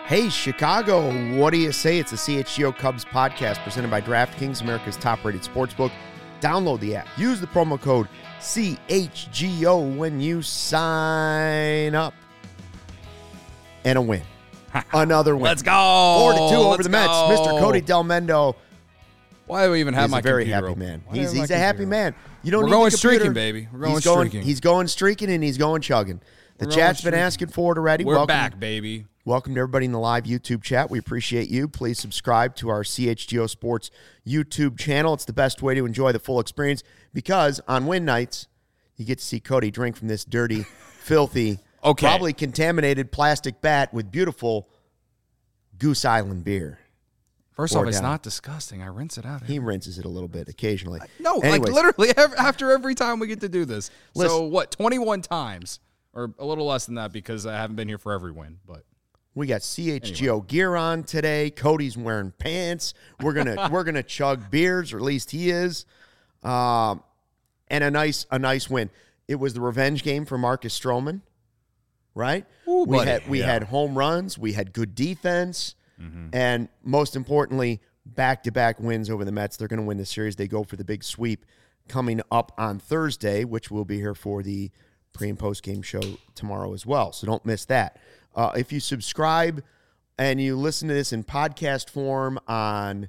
Hey, Chicago, what do you say? It's the CHGO Cubs podcast presented by DraftKings, America's top-rated sportsbook. Download the app. Use the promo code CHGO when you sign up. And a win. Another win. Let's go. 4-2 over the Mets. Mr. Cody Delmendo. Why do we even have my computer? He's a very happy man. He's a happy man. You don't We're need going the computer. streaking, baby. We're going streaking. He's going streaking and he's going chugging. The chat's been asking for it already. We're back, baby. Welcome to everybody in the live YouTube chat. We appreciate you. Please subscribe to our CHGO Sports YouTube channel. It's the best way to enjoy the full experience because on win nights, you get to see Cody drink from this dirty, filthy, probably contaminated plastic bat with beautiful Goose Island beer. First off, it's not disgusting. I rinse it out. He rinses it a little bit occasionally. No, anyways, like literally after every time we get to do this. So what, 21 times? Or a little less than that because I haven't been here for every win, but we got CHGO gear on today. Cody's wearing pants. We're gonna chug beers, or at least he is. And a nice win. It was the revenge game for Marcus Stroman, right? Ooh, we had home runs, we had good defense, and most importantly, back-to-back wins over the Mets. They're going to win the series. They go for the big sweep coming up on Thursday, which we'll be here for the pre- and post-game show tomorrow as well, so don't miss that. If you subscribe and you listen to this in podcast form on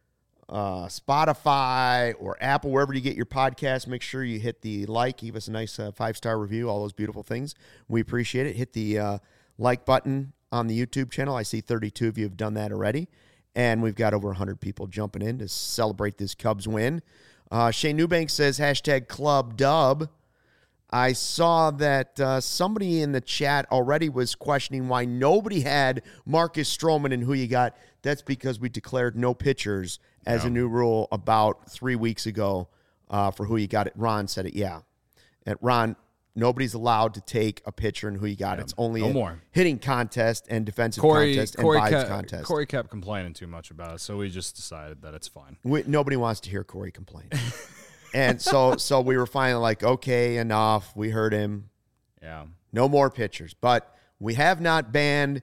Spotify or Apple, wherever you get your podcast, make sure you hit the like, give us a nice 5-star review, all those beautiful things. We appreciate it. Hit the like button on the YouTube channel. I see 32 of you have done that already, and we've got over 100 people jumping in to celebrate this Cubs win. Shane Newbank says, #ClubDub. I saw that somebody in the chat already was questioning why nobody had Marcus Stroman and who you got. That's because we declared no pitchers as a new rule about 3 weeks ago for who you got. Ron said it, yeah. And Ron, nobody's allowed to take a pitcher and who you got. It's only a hitting contest and defensive contest and vibes contest. Corey kept complaining too much about it, so we just decided that it's fine. Nobody wants to hear Corey complain. And so we were finally like, okay, enough. We heard him. Yeah. No more pitchers. But we have not banned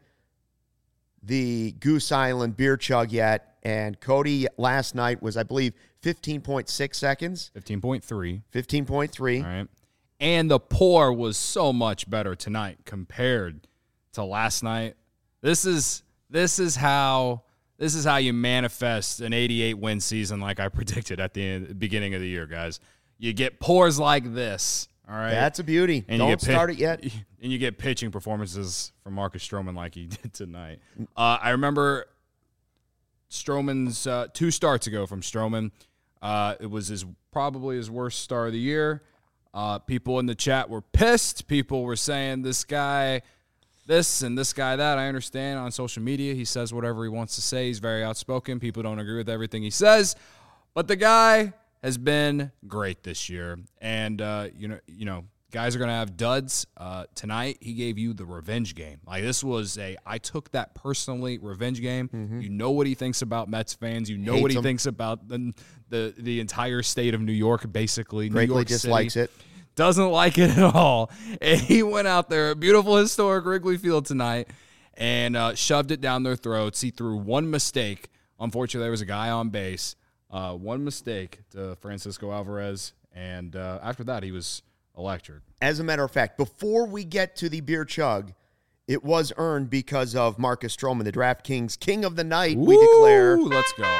the Goose Island beer chug yet. And Cody last night was, I believe, 15.6 seconds. 15.3. 15.3. All right. And the pour was so much better tonight compared to last night. This is how you manifest an 88-win season like I predicted at the beginning of the year, guys. You get pours like this, all right? That's a beauty. And don't start it yet. And you get pitching performances from Marcus Stroman like he did tonight. I remember Stroman's 2 starts ago from Stroman. It was probably his worst start of the year. People in the chat were pissed. People were saying this guy this and this guy that. I understand on social media he says whatever he wants to say. He's very outspoken. People don't agree with everything he says. But the guy has been great this year. And, you know, guys are going to have duds. Tonight he gave you the revenge game. Like this was I took that personally, revenge game. Mm-hmm. You know what he thinks about Mets fans. You know what he thinks about the entire state of New York, basically. Greatly New York dislikes City. it. Doesn't like it at all. And he went out there, a beautiful historic Wrigley Field tonight, and shoved it down their throats. He threw one mistake. Unfortunately, there was a guy on base. One mistake to Francisco Alvarez, and after that, he was electric. As a matter of fact, before we get to the beer chug, it was earned because of Marcus Stroman, the DraftKings King of the Night, we declare. Let's go.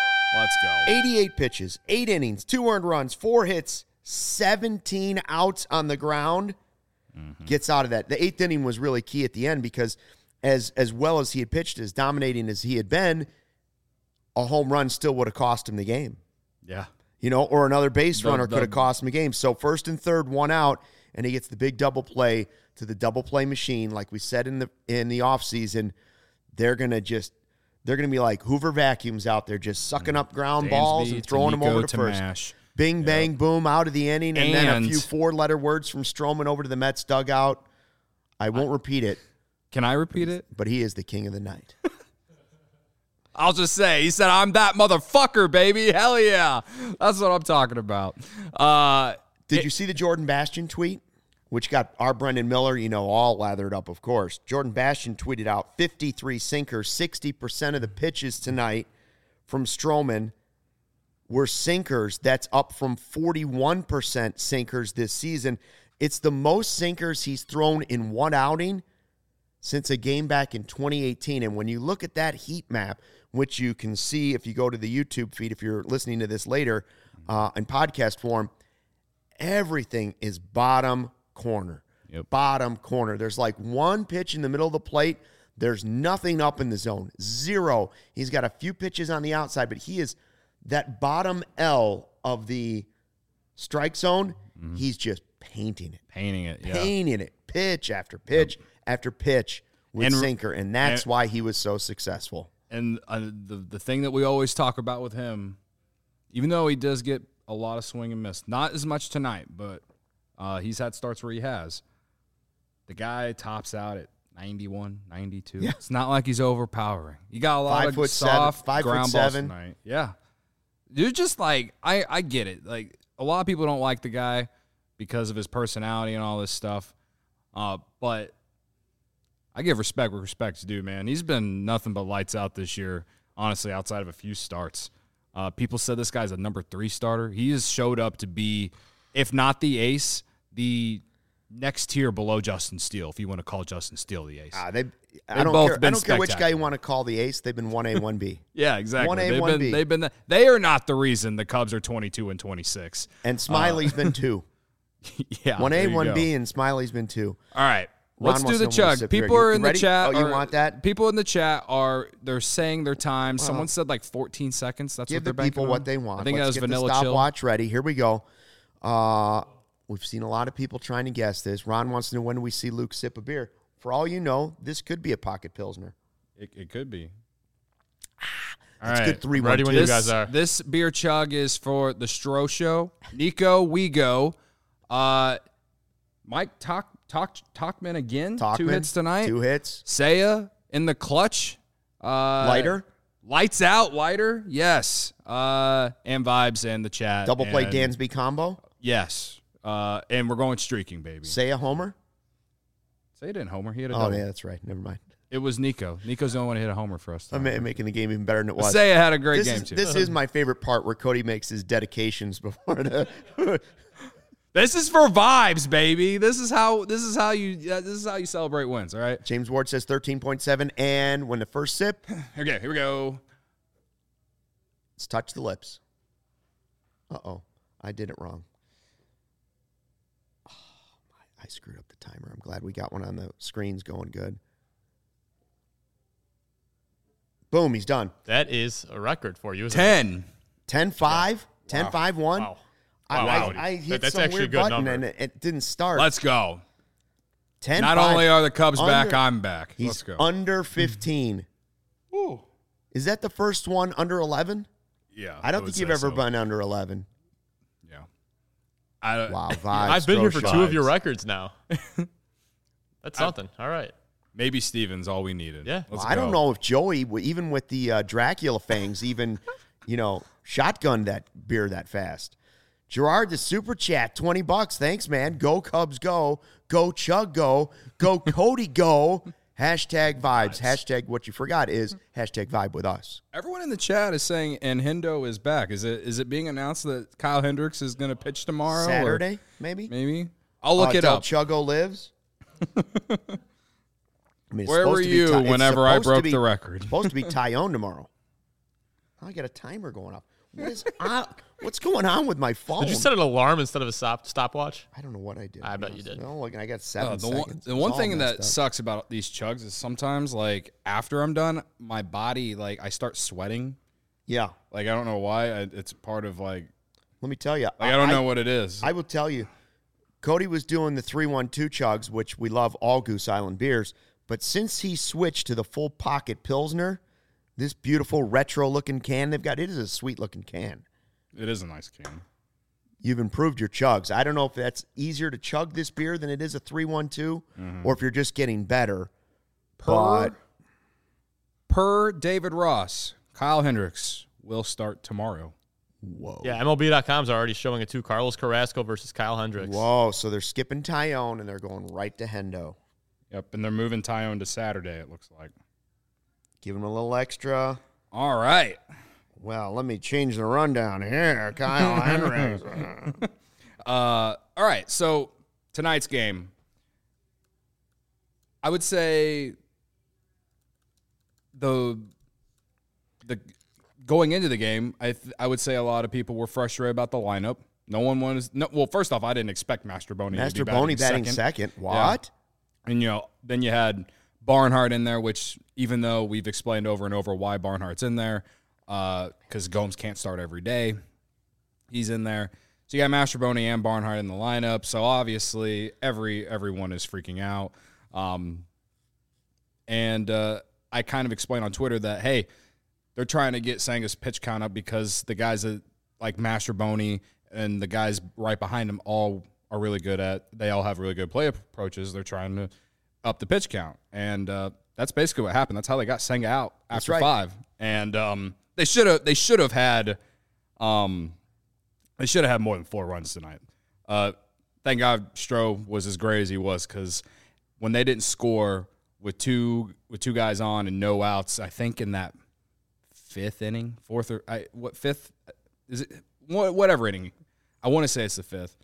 88 pitches, 8 innings, 2 earned runs, 4 hits, 17 outs on the ground, gets out of that. The 8th inning was really key at the end because as well as he had pitched, as dominating as he had been, a home run still would have cost him the game. Yeah. You know, or another base runner could have cost him a game. So 1st and 3rd, 1 out, and he gets the big double play to the double play machine. Like we said in the offseason, they're going to be like Hoover vacuums out there just sucking up ground balls and throwing them over to first. Mash. Bing, bang, boom, out of the inning, and then a few 4-letter words from Stroman over to the Mets dugout. I won't repeat it. Can I repeat it? But he is the king of the night. I'll just say, he said, "I'm that motherfucker, baby. Hell yeah." That's what I'm talking about. Did you see the Jordan Bastian tweet? which got our Brendan Miller, all lathered up, of course. Jordan Bastian tweeted out 53 sinkers, 60% of the pitches tonight from Stroman were sinkers. That's up from 41% sinkers this season. It's the most sinkers he's thrown in one outing since a game back in 2018. And when you look at that heat map, which you can see if you go to the YouTube feed, if you're listening to this later in podcast form, everything is bottom corner. Yep. Bottom corner. There's like one pitch in the middle of the plate. There's nothing up in the zone. Zero. He's got a few pitches on the outside, but he is that bottom L of the strike zone. Mm-hmm. He's just painting it. Painting it. Pitch after pitch after pitch with sinker, and that's why he was so successful. And the thing that we always talk about with him, even though he does get a lot of swing and miss, not as much tonight, but he's had starts where he has. The guy tops out at 91, 92. Yeah. It's not like he's overpowering. You got a lot of soft ground balls tonight. Yeah. You're just like, I get it. Like, a lot of people don't like the guy because of his personality and all this stuff. But I give respect where respect's due, man. He's been nothing but lights out this year, honestly, outside of a few starts. People said this guy's a number 3 starter. He has showed up to be, if not the ace, the next tier below Justin Steele, if you want to call Justin Steele the ace. I don't care which guy you want to call the ace. They've been 1A, 1B. Yeah, exactly. 1A, 1B. They are not the reason the Cubs are 22 and 26. And Smiley's been 2. Yeah, 1A, 1B, and Smiley's been 2. All right. Let's do the chug. People are in the chat. Oh, you want that? People in the chat they're saying their time. Someone said like 14 seconds. That's what they're banking on. Give the people what they want. I think Let's that was get Vanilla the Chill. stopwatch ready. Here we go. We've seen a lot of people trying to guess this. Ron wants to know, when do we see Luke sip a beer? For all you know, this could be a pocket pilsner. It could be. That's right. good 3-1. Ready when you guys are. This beer chug is for the Stro Show. Nico, we go. Mike Talkman again. 2 hits tonight. 2 hits. Saya in the clutch. Lighter. Lights out, lighter. Yes. And vibes in the chat. Double play Dansby combo. Yes. And we're going streaking, baby. Say a homer. Say didn't homer. He had a Oh, double. yeah, that's right. Never mind. It was Nico. Nico's the only one who hit a homer for us. I'm making the game even better than it was. Saya had a great game, too. This is my favorite part, where Cody makes his dedications before the... This is for vibes, baby. This is how you celebrate wins, all right? James Ward says 13.7, and when the first sip... Okay, here we go. Let's touch the lips. Uh-oh. I did it wrong. Oh, I screwed up the timer. I'm glad we got one on the screens going good. Boom, he's done. That is a record for you, isn't 10. 10-5? 10-5-1? Wow. I hit That's some actually weird a good button, number. and it didn't start. Let's go. 10-5. Not only are the Cubs back, I'm back. He's Let's go. under 15. Ooh. Is that the first one under 11? Yeah. I don't think you've ever been under 11. Yeah. Wow, vibes. I've been here for Stroh 2 of your vibes. records now. That's something. All right. Maybe Steven's all we needed. Yeah. Let's I go. don't know if Joey, even with the Dracula fangs, even, shotgunned that beer that fast. Gerard, the super chat, $20. Thanks, man. Go Cubs, go. Go Chug, go. Go Cody, go. Hashtag vibes. Hashtag what you forgot is hashtag vibe with us. Everyone in the chat is saying Hendo is back. Is it being announced that Kyle Hendricks is going to pitch tomorrow? Saturday, maybe? Maybe. I'll look it Del up. Chuggo lives. Where were you whenever I broke the record? It's supposed to be Tyone tomorrow. I got a timer going off. What's going on with my phone? Did you set an alarm instead of a stopwatch? I don't know what I did. I bet you did. No, look, I got 7 The seconds. one thing that up. sucks about these chugs is sometimes, like, after I'm done, my body, like, I start sweating. Yeah. Like, I don't know why. It's part of, like, Let me tell you. I don't know what it is. I will tell you. Cody was doing the 3-1-2 chugs, which we love all Goose Island beers. But since he switched to the full pocket Pilsner, this beautiful retro-looking can they've got, it is a sweet-looking can. It is a nice can. You've improved your chugs. I don't know if that's easier to chug this beer than it is a 3-1-2, or if you're just getting better. Per David Ross, Kyle Hendricks will start tomorrow. Whoa. Yeah, MLB.com's already showing it too. Carlos Carrasco versus Kyle Hendricks. Whoa, so they're skipping Tyone and they're going right to Hendo. Yep, and they're moving Tyone to Saturday, it looks like. Give him a little extra. All right. Well, let me change the rundown here. Kyle Hendricks. All right, so tonight's game, I would say the going into the game, I would say a lot of people were frustrated about the lineup. No one wanted. Well, first off, I didn't expect Mastroboni. Mastroboni batting second. What? Yeah. And then you had Barnhart in there, which even though we've explained over and over why Barnhart's in there, because Gomes can't start every day, he's in there. So you got Mastroboni and Barnhart in the lineup. So obviously everyone is freaking out. And I kind of explained on Twitter that, hey, they're trying to get Senga's pitch count up because the guys that like Mastroboni and the guys right behind him all are really good they all have really good play approaches. They're trying to up the pitch count. And that's basically what happened. That's how they got Senga out after 5. And they should have had more than 4 runs tonight. Thank God Stroh was as great as he was, because when they didn't score with two guys on and no outs, I think in that 5th inning, 4th or fifth is it? Whatever inning, I want to say it's the 5th.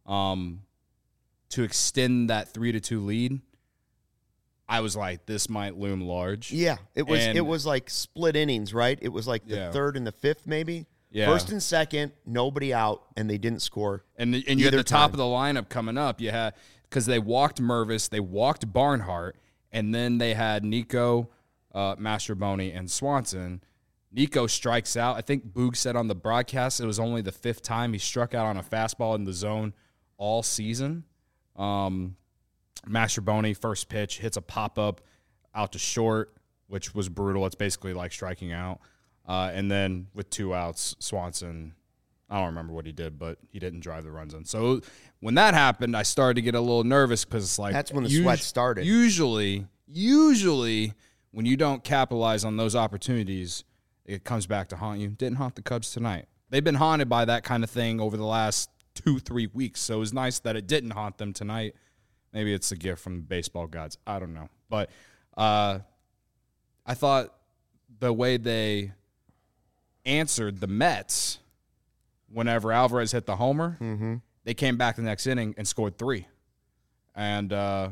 To extend that 3-2 lead, I was like, this might loom large. Yeah, it was like split innings, right? It was like the 3rd and the 5th, maybe. Yeah. 1st and 2nd, nobody out, and they didn't score. And you had the top of the lineup coming up. You had, because they walked Mervis, they walked Barnhart, and then they had Nico, Mastroboni, and Swanson. Nico strikes out. I think Boog said on the broadcast it was only the 5th time he struck out on a fastball in the zone all season. Mastroboni, first pitch, hits a pop-up out to short, which was brutal. It's basically like striking out. And then with 2 outs, Swanson, I don't remember what he did, but he didn't drive the runs in. So when that happened, I started to get a little nervous because it's like, that's when the sweat started. Usually, when you don't capitalize on those opportunities, it comes back to haunt you. Didn't haunt the Cubs tonight. They've been haunted by that kind of thing over the last 2-3 weeks, so it was nice that it didn't haunt them tonight. Maybe it's a gift from the baseball gods. I don't know. But I thought the way they answered the Mets whenever Alvarez hit the homer, they came back the next inning and scored 3. And,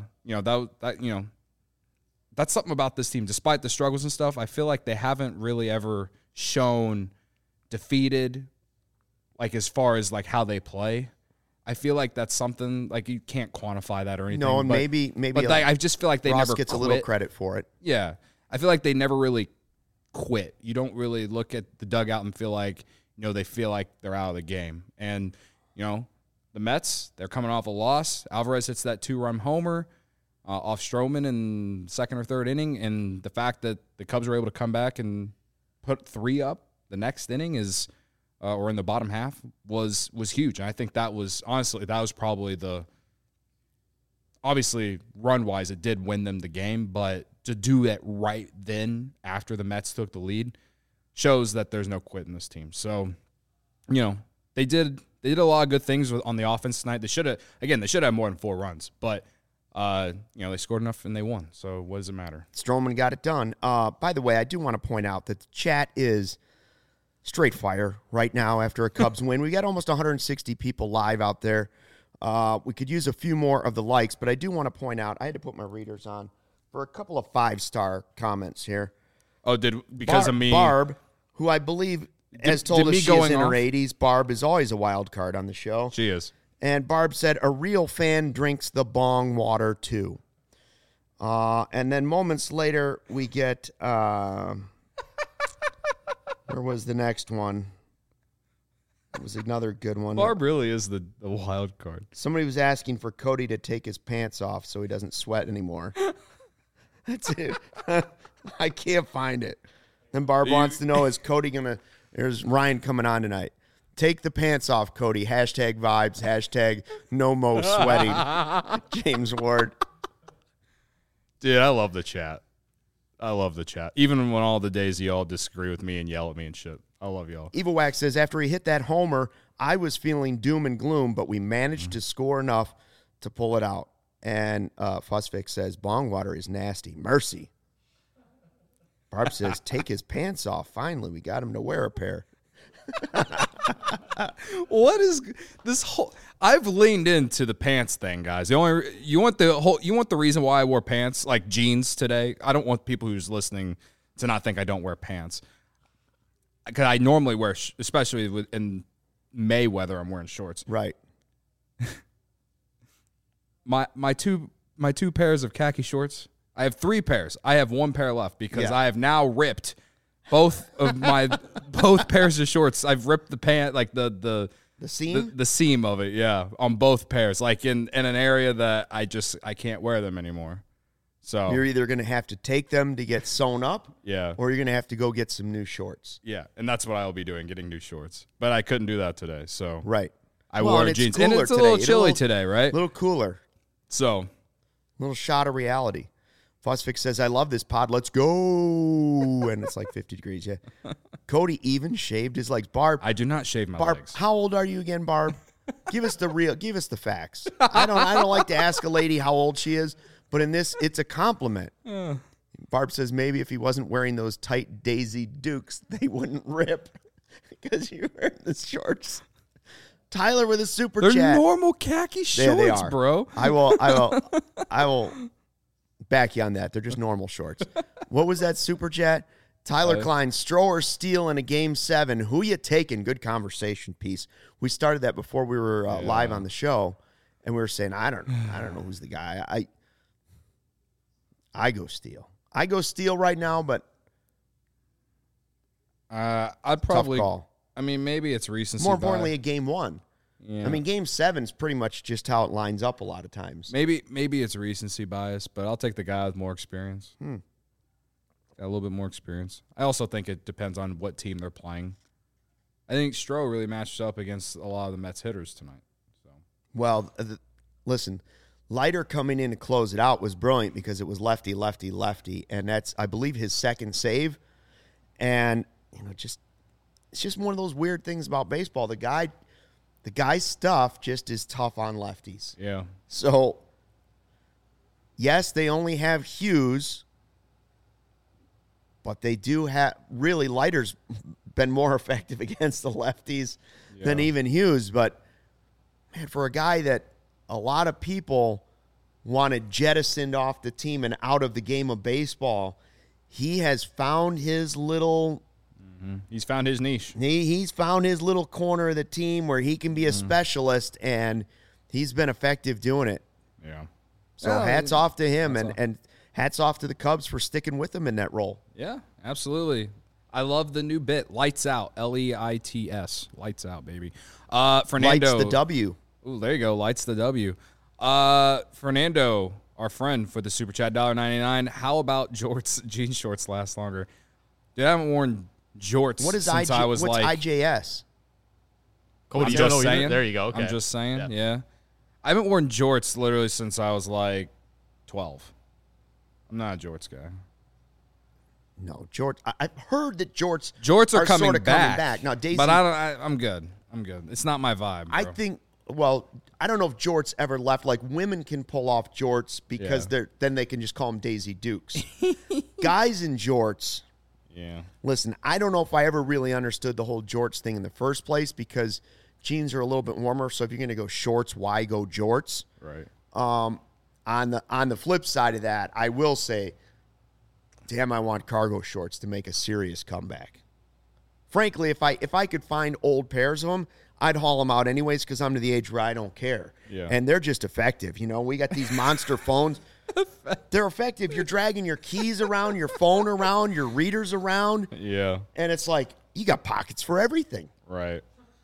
that's something about this team. Despite the struggles and stuff, I feel like they haven't really ever shown defeated, like as far as like how they play. I feel like that's something like you can't quantify that or anything. No, and maybe but like, I just feel like they Ross never gets quit. a little credit for it. Yeah, I feel like they never really quit. You don't really look at the dugout and feel like they feel like they're out of the game. And the Mets, they're coming off a loss. Alvarez hits that 2-run homer off Stroman in 2nd or 3rd inning, and the fact that the Cubs were able to come back and put 3 up the next inning is, or in the bottom half, was huge. And I think that was probably obviously run-wise, it did win them the game, but to do it right then after the Mets took the lead shows that there's no quit in this team. So, they did a lot of good things on the offense tonight. They should have more than 4 runs, but they scored enough and they won. So what does it matter? Stroman got it done. By the way, I do want to point out that the chat is straight fire right now after a Cubs win. We got almost 160 people live out there. We could use a few more of the likes, but I do want to point out, I had to put my readers on for a couple of 5-star comments here. Oh, because of me? Barb, who I believe has told us she's in her off? 80s. Barb is always a wild card on the show. She is. And Barb said, a real fan drinks the bong water too. And then moments later, we get, where was the next one? It was another good one. Barb really is the wild card. Somebody was asking for Cody to take his pants off so he doesn't sweat anymore. That's it. I can't find it. Then Barb wants to know, is Cody going to, there's Ryan coming on tonight. Take the pants off, Cody. Hashtag vibes. Hashtag no mo sweating. James Ward. Dude, I love the chat. I love the chat. Even when all the days y'all disagree with me and yell at me and shit. I love y'all. Evil Wax says, after he hit that homer, I was feeling doom and gloom, but we managed to score enough to pull it out. And Fussfix says, bong water is nasty. Mercy. Barb says, take his pants off. Finally, we got him to wear a pair. What is this whole? I've leaned into the pants thing, guys. You want the reason why I wore pants, like jeans today. I don't want people who's listening to not think I don't wear pants, because I normally wear, especially in May weather, I'm wearing shorts. Right. My two pairs of khaki shorts. I have 3 pairs. I have 1 pair left because I have now ripped both of my pairs of shorts. I've ripped the pant, like the seam? The seam of it, yeah, on both pairs, like in an area that I can't wear them anymore. So you're either going to have to take them to get sewn up, or you're going to have to go get some new shorts. Yeah, and that's what I'll be doing, getting new shorts. But I couldn't do that today, so right. I wore jeans, and it's a little chilly today, right? A little cooler. So, a little shot of reality. Fussfix says, I love this pod. Let's go. And it's like 50 degrees, yeah. Cody even shaved his legs. Barb. I do not shave my Barb, legs. how old are you again, Barb? Give us the facts. I don't like to ask a lady how old she is, but in this, it's a compliment. Barb says, maybe if he wasn't wearing those tight Daisy Dukes, they wouldn't rip because you're wearing the shorts. Tyler with a super chat. They're normal khaki shorts, they are. Bro. I will back you on that. They're just normal shorts. What was that super chat? Tyler Klein, Stroh or Steele in a Game 7. Who you taking? Good conversation piece. We started that before we were live on the show, and we were saying, I don't know who's the guy. I go Steele. I go Steele right now, but I'd probably tough call. I mean, maybe it's recency. More importantly, a Game 1. Yeah. I mean, Game 7's pretty much just how it lines up a lot of times. Maybe it's recency bias, but I'll take the guy with more experience. Got a little bit more experience. I also think it depends on what team they're playing. I think Stroh really matched up against a lot of the Mets hitters tonight. So, well, listen, Leiter coming in to close it out was brilliant because it was lefty, lefty, lefty, and that's, I believe, his second save. And it's just one of those weird things about baseball. The guy's stuff just is tough on lefties. yeah. So, yes, they only have Hughes, but they do have, really, Leiter's been more effective against the lefties than even Hughes. But, man, for a guy that a lot of people wanted jettisoned off the team and out of the game of baseball, he has found his little... He's found his niche. He's found his little corner of the team where he can be a specialist, and he's been effective doing it. Yeah. So hats off to him, and hats off to the Cubs for sticking with him in that role. Yeah, absolutely. I love the new bit, Lights Out, L-E-I-T-S. Lights Out, baby. Fernando. Lights the W. Ooh, there you go, Lights the W. Fernando, our friend for the Super Chat, $1.99. How about jean shorts last longer? Dude, I haven't worn jorts What is since I was what's like... IJS? Cody, I'm you don't just know either? saying. There you go. Okay. I'm just saying, yeah. I haven't worn jorts literally since I was like 12. I'm not a jorts guy. No, jorts. I've heard that jorts are coming sort of back. coming back. Now, Daisy, but I'm good. I'm good. It's not my vibe, bro. I think, well, I don't know if jorts ever left. Like, women can pull off jorts because then they can just call them Daisy Dukes. Guys in jorts... Yeah. Listen, I don't know if I ever really understood the whole jorts thing in the first place because jeans are a little bit warmer. So if you're going to go shorts, why go jorts? Right. On the flip side of that, I will say, damn, I want cargo shorts to make a serious comeback. Frankly, if I could find old pairs of them, I'd haul them out anyways because I'm to the age where I don't care. Yeah. And they're just effective. We got these monster phones. They're effective. You're dragging your keys around, your phone around, your readers around. Yeah. And it's like, you got pockets for everything. Right.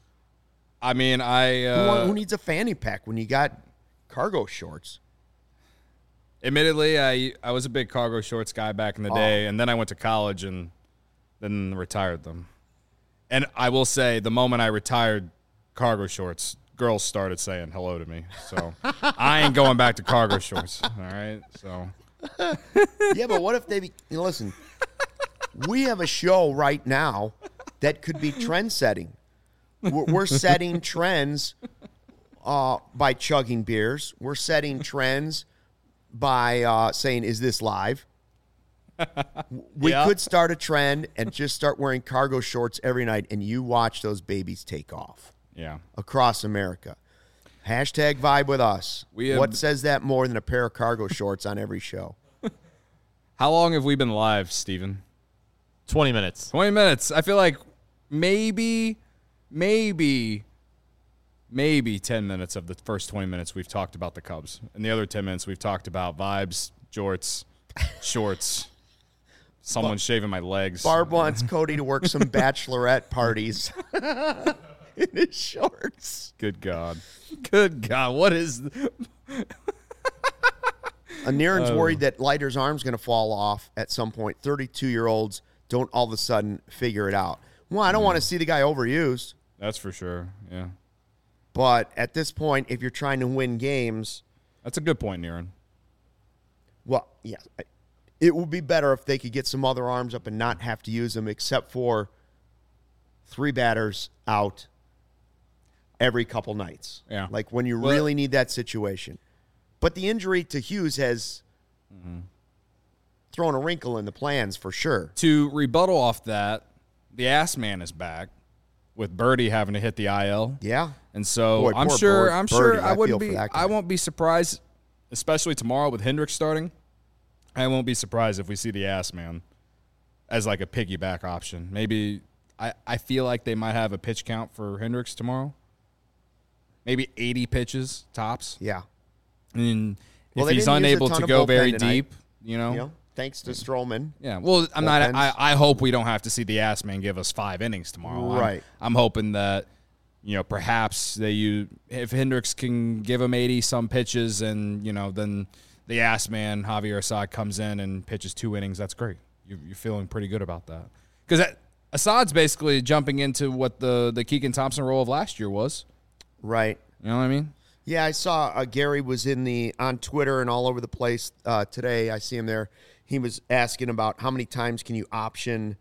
I mean, who needs a fanny pack when you got cargo shorts? Admittedly, I was a big cargo shorts guy back in the day, and then I went to college and then retired them. And I will say, the moment I retired cargo shorts, girls started saying hello to me. So I ain't going back to cargo shorts. All right. So Yeah, but what if they listen, we have a show right now that could be trend setting. We're setting trends by chugging beers. We're setting trends by saying, is this live? We could start a trend and just start wearing cargo shorts every night, and you watch those babies take off. Yeah. Across America. Hashtag vibe with us. What says that more than a pair of cargo shorts on every show? How long have we been live, Steven? 20 minutes. 20 minutes. I feel like maybe 10 minutes of the first 20 minutes we've talked about the Cubs. And the other 10 minutes we've talked about vibes, jorts, shorts, someone shaving my legs. Barb wants Cody to work some bachelorette parties in his shorts. Good God. Good God. What is... Niren's worried that Leiter's arm's going to fall off at some point. 32-year-olds don't all of a sudden figure it out. Well, I don't want to see the guy overused. That's for sure, yeah. But at this point, if you're trying to win games... That's a good point, Niren. Well, yeah. It would be better if they could get some other arms up and not have to use them, except for 3 batters out every couple nights. Yeah. Like when you really need that situation. But the injury to Hughes has thrown a wrinkle in the plans for sure. To rebuttal off that, the ass man is back with Birdie having to hit the IL. Yeah. And so Boy, I'm poor sure Birdie. I feel for that guy. I won't be surprised, especially tomorrow with Hendricks starting. I won't be surprised if we see the ass man as like a piggyback option. Maybe I feel like they might have a pitch count for Hendricks tomorrow. Maybe 80 pitches tops. Yeah. And Well, if they he's didn't use a unable ton to of go bullpen very tonight. deep, you know. You know, thanks to Stroman. Yeah. Well, Bullpens. I hope we don't have to see the ass man give us 5 innings tomorrow. Right. I'm hoping that, you know, perhaps if Hendricks can give him 80 some pitches, and you know, then the ass man Javier Assad comes in and pitches 2 innings. That's great. You're feeling pretty good about that, because Assad's basically jumping into what the Keegan Thompson role of last year was. Right. You know what I mean? Yeah, I saw Gary was on Twitter and all over the place today. I see him there. He was asking about how many times can you option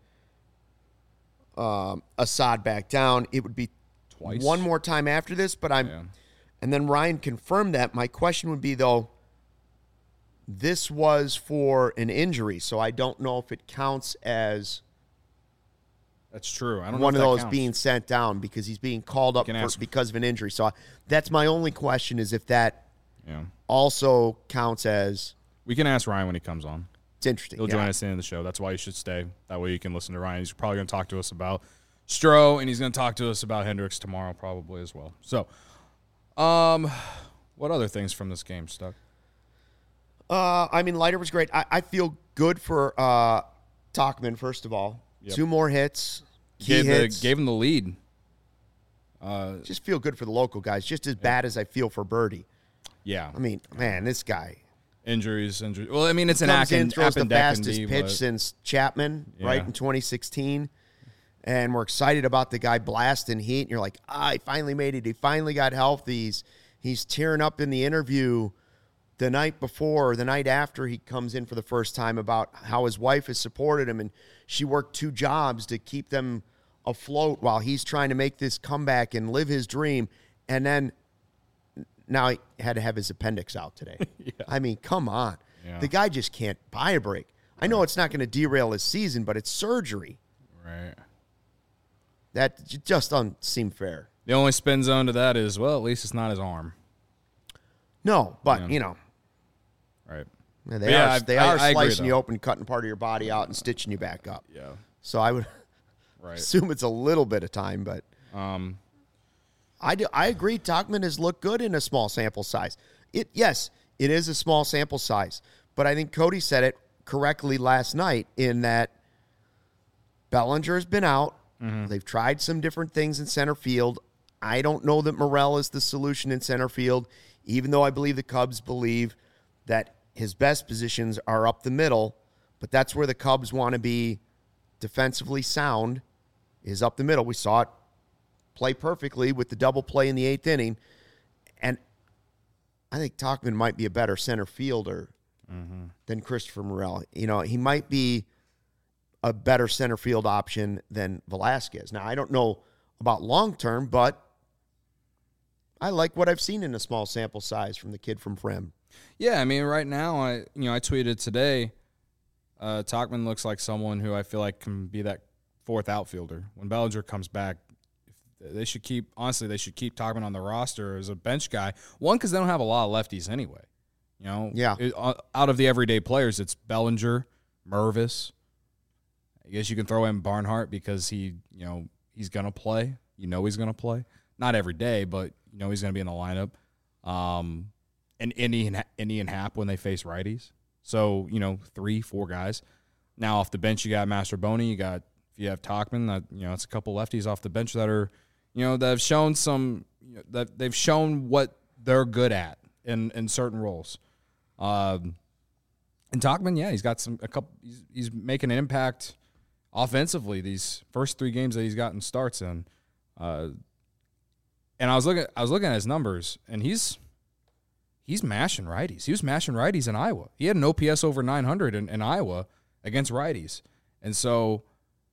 Assad back down. It would be Twice. one more time after this, but and then Ryan confirmed that. My question would be, though, this was for an injury, so I don't know if it counts as That's true. I don't know one if of that those counts. being sent down because he's being called up because of an injury. So that's my only question, is if that also counts as... We can ask Ryan when he comes on. It's interesting. He'll join us at the end of the show. That's why you should stay. That way you can listen to Ryan. He's probably going to talk to us about Stroh, and he's going to talk to us about Hendricks tomorrow probably as well. So, what other things from this game, Stuck? I mean, Leiter was great. I feel good for Tauchman, first of all. Yep. 2 more hits. Key hits. Gave him the lead. Just feel good for the local guys, just as bad as I feel for Birdie. Yeah. I mean, man, this guy. Injuries. Well, I mean, it's an Comes in, throws the fastest appendectomy, pitch but- since Chapman, right, Yeah. in 2016. And we're excited about the guy blasting heat. And you're like, he finally made it. He finally got healthy. He's tearing up in the interview the night before, or the night after he comes in for the first time, about how his wife has supported him, and she worked 2 jobs to keep them afloat while he's trying to make this comeback and live his dream. And then now he had to have his appendix out today. I mean, come on. Yeah. The guy just can't buy a break. I know it's not going to derail his season, but it's surgery. Right. That just doesn't seem fair. The only spin zone to that is, well, at least it's not his arm. No, but, Yeah. you know, Right. they Yeah, are I agree, slicing you though. open, cutting part of your body out, and stitching you back up. Yeah. So I would Right. assume it's a little bit of time, but I agree. Tauchman has looked good in a small sample size. Yes, it is a small sample size, but I think Cody said it correctly last night in that Bellinger has been out. They've tried some different things in center field. I don't know that Morel is the solution in center field, even though I believe the Cubs believe that his best positions are up the middle, but that's where the Cubs want to be defensively sound, is up the middle. We saw it play perfectly with the double play in the 8th inning, and I think Tauchman might be a better center fielder than Christopher Morel. You know, he might be a better center field option than Velasquez. Now, I don't know about long term, but I like what I've seen in a small sample size from the kid from Frem. Yeah, I mean, right now, I tweeted today, Tauchman looks like someone who I feel like can be that fourth outfielder. When Bellinger comes back, they should keep Tauchman on the roster as a bench guy. One, because they don't have a lot of lefties anyway. You know, out of the everyday players, it's Bellinger, Mervis. I guess you can throw in Barnhart because he's gonna play. He's gonna play. Not every day, but he's gonna be in the lineup. And Indy and Happ when they face righties. So 3-4 guys. Now off the bench, you got Mastroboni. If you have Tauchman, it's a couple lefties off the bench that are, that have shown that they've shown what they're good at in certain roles. And Tauchman, he's got he's making an impact offensively these first 3 games that he's gotten starts in. And I was looking at his numbers, and he's mashing righties. He was mashing righties in Iowa. He had an OPS over 900 in Iowa against righties. And so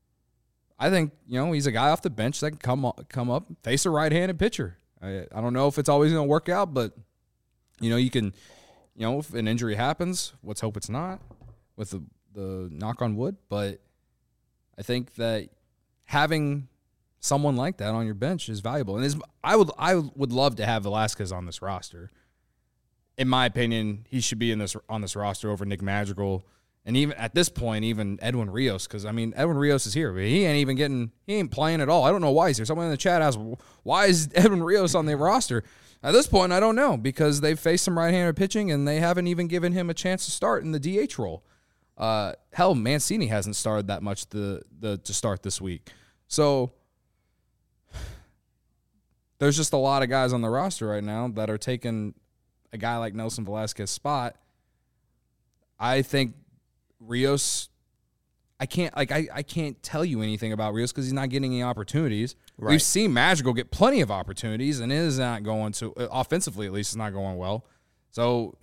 I think, he's a guy off the bench that can come up, face a right-handed pitcher. I don't know if it's always going to work out, but, you can, if an injury happens, let's hope it's not with the knock on wood. But I think that having someone like that on your bench is valuable. And I would love to have Velasquez on this roster. In my opinion, he should be on this roster over Nick Madrigal, and even at this point, even Edwin Rios. Because Edwin Rios is here, but he ain't playing at all. I don't know why he's here. Someone in the chat asked, why is Edwin Rios on the roster? At this point, I don't know, because they've faced some right-handed pitching, and they haven't even given him a chance to start in the DH role. Hell, Mancini hasn't started that much to start this week. So there's just a lot of guys on the roster right now that are taking a guy like Nelson Velasquez's spot. I think Rios, I can't tell you anything about Rios because he's not getting any opportunities. Right. We've seen Madrigal get plenty of opportunities, and it is not going to, offensively at least, it's not going well. So,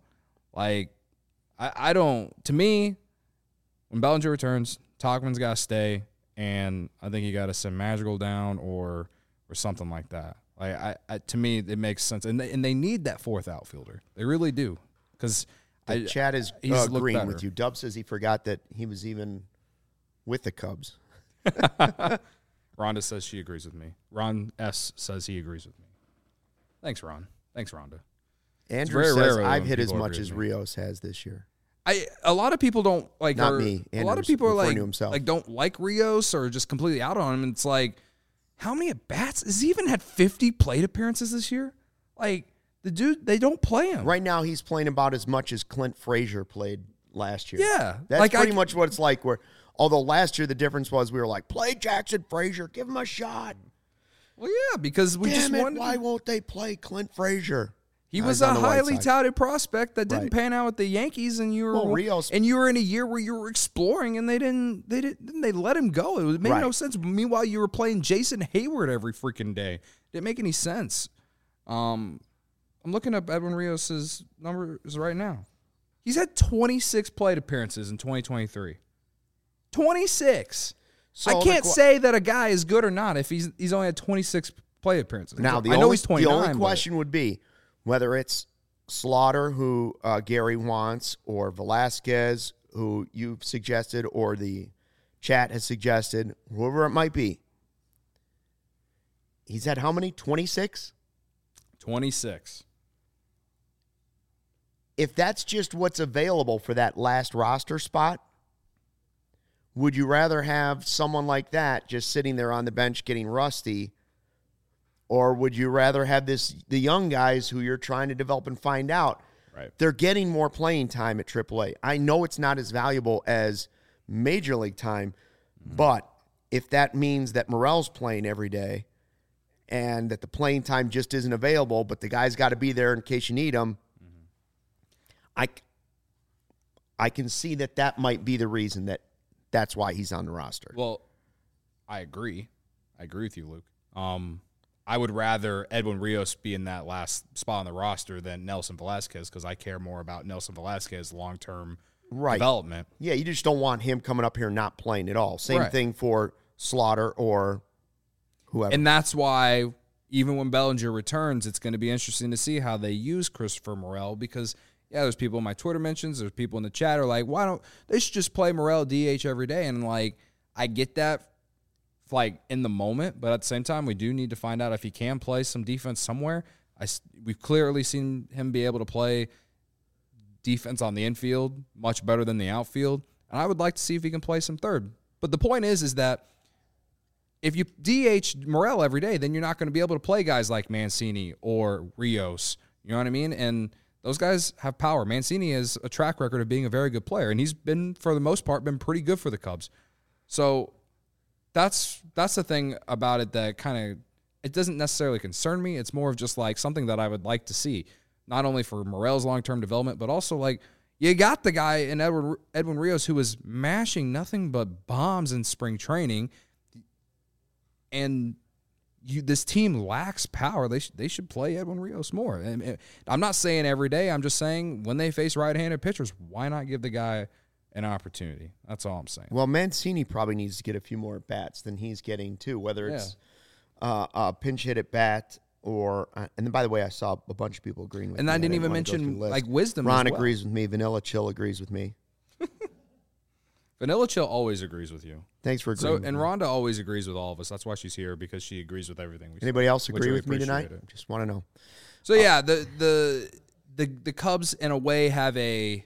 I don't, to me, when Bellinger returns, Tauchman's got to stay, and I think you got to send Madrigal down or something like that. To me, it makes sense, and they need that fourth outfielder. They really do, because the chat is agreeing with you. Dub says he forgot that he was even with the Cubs. Rhonda says she agrees with me. Ron S says he agrees with me. Thanks, Ron. Thanks, Rhonda. Andrew says I've hit as much as Rios has this year. A lot of people don't like. Not me. A lot of people are don't like Rios or just completely out on him. And it's like, how many at bats? Has he even had 50 plate appearances this year? The dude, they don't play him. Right now, he's playing about as much as Clint Frazier played last year. Yeah. That's pretty much what it's like. Although last year the difference was we were like, play Jackson Frazier, give him a shot. Well, yeah, because why won't they play Clint Frazier? He was a highly touted prospect that didn't pan out with the Yankees, and you were in a year where you were exploring, and they let him go. It made no sense. Meanwhile, you were playing Jason Hayward every freaking day. Didn't make any sense. I'm looking up Edwin Rios' numbers right now. He's had 26 plate appearances in 2023. 26. So I can't say that a guy is good or not if he's only had 26 plate appearances. Now, he's 29. The only question would be whether it's Slaughter, who Gary wants, or Velasquez, who you've suggested, or the chat has suggested, whoever it might be. He's had how many? 26? 26. If that's just what's available for that last roster spot, would you rather have someone like that just sitting there on the bench getting rusty, or would you rather have the young guys who you're trying to develop and find out? Right. They're getting more playing time at AAA. I know it's not as valuable as Major League time, but if that means that Morel's playing every day and that the playing time just isn't available, but the guy's got to be there in case you need him, I can see that might be the reason that's why he's on the roster. Well, I agree. I agree with you, Luke. I would rather Edwin Rios be in that last spot on the roster than Nelson Velasquez because I care more about Nelson Velasquez's long-term development. Yeah, you just don't want him coming up here and not playing at all. Same thing for Slaughter or whoever. And that's why even when Bellinger returns, it's going to be interesting to see how they use Christopher Morel because, yeah, there's people in my Twitter mentions, there's people in the chat who are like, why don't they should just play Morel DH every day? And, like, I get that, like, in the moment, but at the same time, we do need to find out if he can play some defense somewhere. We've clearly seen him be able to play defense on the infield much better than the outfield, and I would like to see if he can play some third. But the point is that if you DH Morel every day, then you're not going to be able to play guys like Mancini or Rios. You know what I mean? And those guys have power. Mancini has a track record of being a very good player, and he's been, for the most part, been pretty good for the Cubs. So that's the thing about it that kind of, it doesn't necessarily concern me. It's more of just like something that I would like to see, not only for Morel's long-term development, but also like you got the guy in Edwin Rios who was mashing nothing but bombs in spring training, and this team lacks power. They should play Edwin Rios more. And I'm not saying every day. I'm just saying when they face right-handed pitchers, why not give the guy an opportunity? That's all I'm saying. Well, Mancini probably needs to get a few more bats than he's getting too, whether it's a pinch hit at bat or and then by the way, I saw a bunch of people agreeing with me. And I didn't even mention like Wisdom. Ron as well. agrees with me. Vanilla Chill agrees with me. Vanilla Chill always agrees with you. Thanks for agreeing. And Rhonda always agrees with all of us. That's why she's here, because she agrees with everything we say. Anybody else agree with me tonight? It. Just want to know. So yeah, the Cubs in a way have a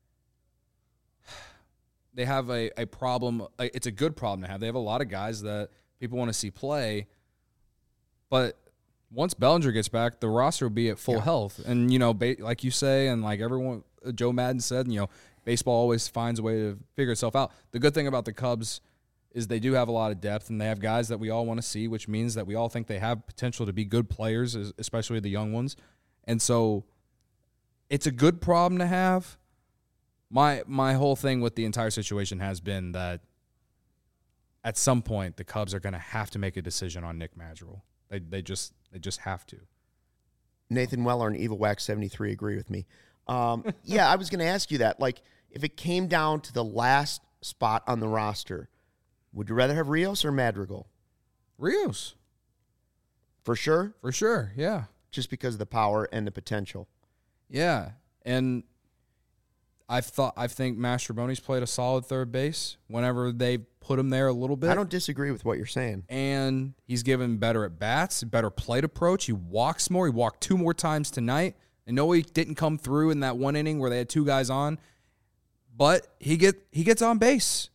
problem. It's a good problem to have. They have a lot of guys that people want to see play, but once Bellinger gets back, the roster will be at full health. And you know, like you say, and like everyone, Joe Madden said, you know, baseball always finds a way to figure itself out. The good thing about the Cubs is they do have a lot of depth, and they have guys that we all want to see, which means that we all think they have potential to be good players, especially the young ones. And so it's a good problem to have. My whole thing with the entire situation has been that at some point the Cubs are going to have to make a decision on Nick Madrigal. They just have to. Nathan Weller and Evil Wax 73 agree with me. Yeah, I was going to ask you that. Like, if it came down to the last spot on the roster, would you rather have Rios or Madrigal? Rios. For sure? For sure, yeah. Just because of the power and the potential. Yeah, and I think Mastrobuoni's played a solid third base whenever they put him there a little bit. I don't disagree with what you're saying. And he's given better at bats, better plate approach. He walks more. He walked 2 more times tonight. I know he didn't come through in that one inning where they had 2 guys on, but he gets on base.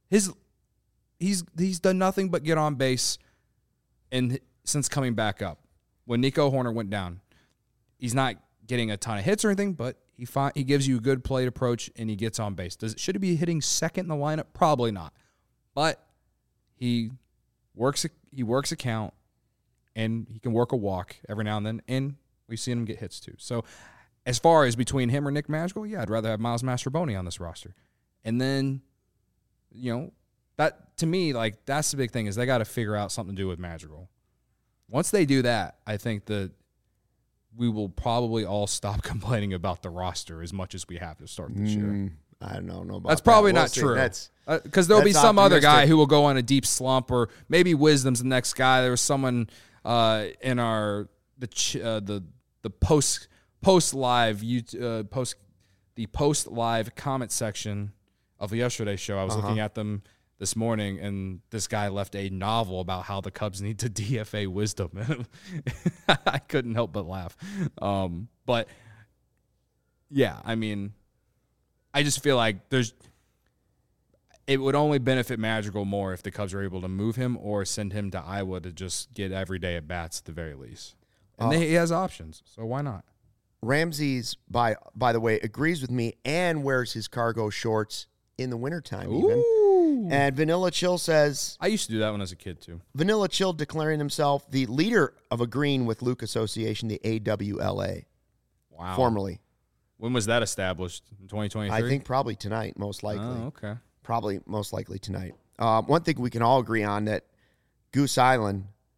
He's done nothing but get on base, and since coming back up, when Nico Hoerner went down, he's not getting a ton of hits or anything, but he gives you a good plate approach and he gets on base. Should he be hitting second in the lineup? Probably not, but he works a count, and he can work a walk every now and then, and we've seen him get hits too. So as far as between him or Nick Madrigal, yeah, I'd rather have Miles Mastrobuoni on this roster. And then, you know, that to me, like, that's the big thing, is they got to figure out something to do with Madrigal. Once they do that, I think that we will probably all stop complaining about the roster as much as we have to start this year. I don't know about that's probably that. not true. Because there'll be some other guy who will go on a deep slump, or maybe Wisdom's the next guy. There was someone in our the post live comment section of yesterday's show. I was looking at them this morning, and this guy left a novel about how the Cubs need to DFA Wisdom. I couldn't help but laugh. But yeah, I mean, I just feel like it would only benefit Madrigal more if the Cubs are able to move him or send him to Iowa to just get every day at bats at the very least. And he has options, so why not? Ramsey's, by the way, agrees with me and wears his cargo shorts in the wintertime even. And Vanilla Chill says... I used to do that when I was a kid, too. Vanilla Chill declaring himself the leader of agreeing with Luke Association, the AWLA. Wow. Formerly. When was that established? In 2023? I think probably tonight, most likely. Oh, okay. Probably most likely tonight. One thing we can all agree on, that Goose Island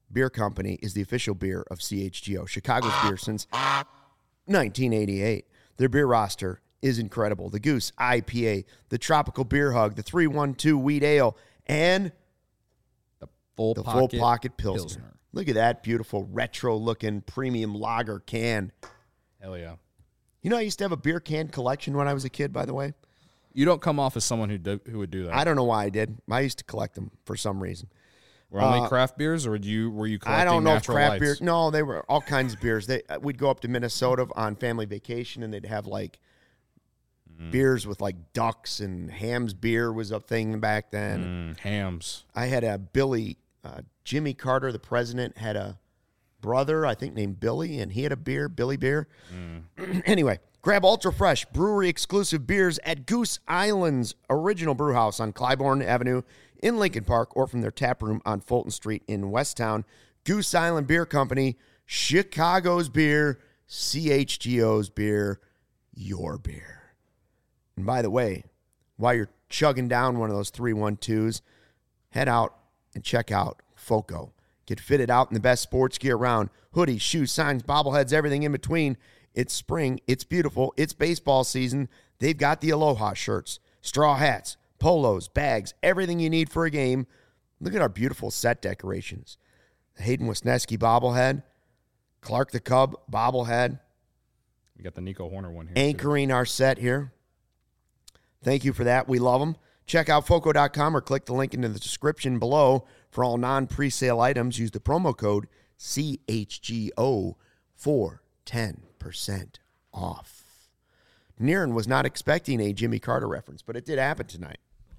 Beer Company is the official beer of CHGO, Chicago's beer since 1988. Their beer roster is incredible. The Goose IPA, the Tropical Beer Hug, the 312 Wheat Ale, and The Full Pocket Pilsner. Look at that beautiful retro-looking premium lager can. Hell yeah. You know, I used to have a beer can collection when I was a kid, by the way. You don't come off as someone who would do that. I don't know why I did. I used to collect them for some reason. Were only craft beers, or were you collecting I don't know if natural craft lights? beer. No, they were all kinds of beers. We'd go up to Minnesota on family vacation, and they'd have like beers with like ducks, and Ham's beer was a thing back then. Hams. I had a Jimmy Carter, the president, had a brother, I think, named Billy, and he had a beer, Billy Beer. Anyway, grab Ultra Fresh brewery exclusive beers at Goose Island's original brew house on Clybourne Avenue in Lincoln Park, or from their tap room on Fulton Street in Westtown. Goose Island Beer Company, Chicago's beer, CHGO's beer, your beer. And by the way, while you're chugging down one of those 312s, head out and check out FOCO. Get fitted out in the best sports gear around. Hoodies, shoes, signs, bobbleheads, everything in between. It's spring. It's beautiful. It's baseball season. They've got the Aloha shirts, straw hats, polos, bags, everything you need for a game. Look at our beautiful set decorations. The Hayden Wisniewski bobblehead, Clark the Cub bobblehead. We got the Nico Horner one here. Anchoring our set here. Thank you for that. We love them. Check out FOCO.com or click the link in the description below for all non-presale items. Use the promo code CHGO for 10% off. Niren was not expecting a Jimmy Carter reference, but it did happen tonight.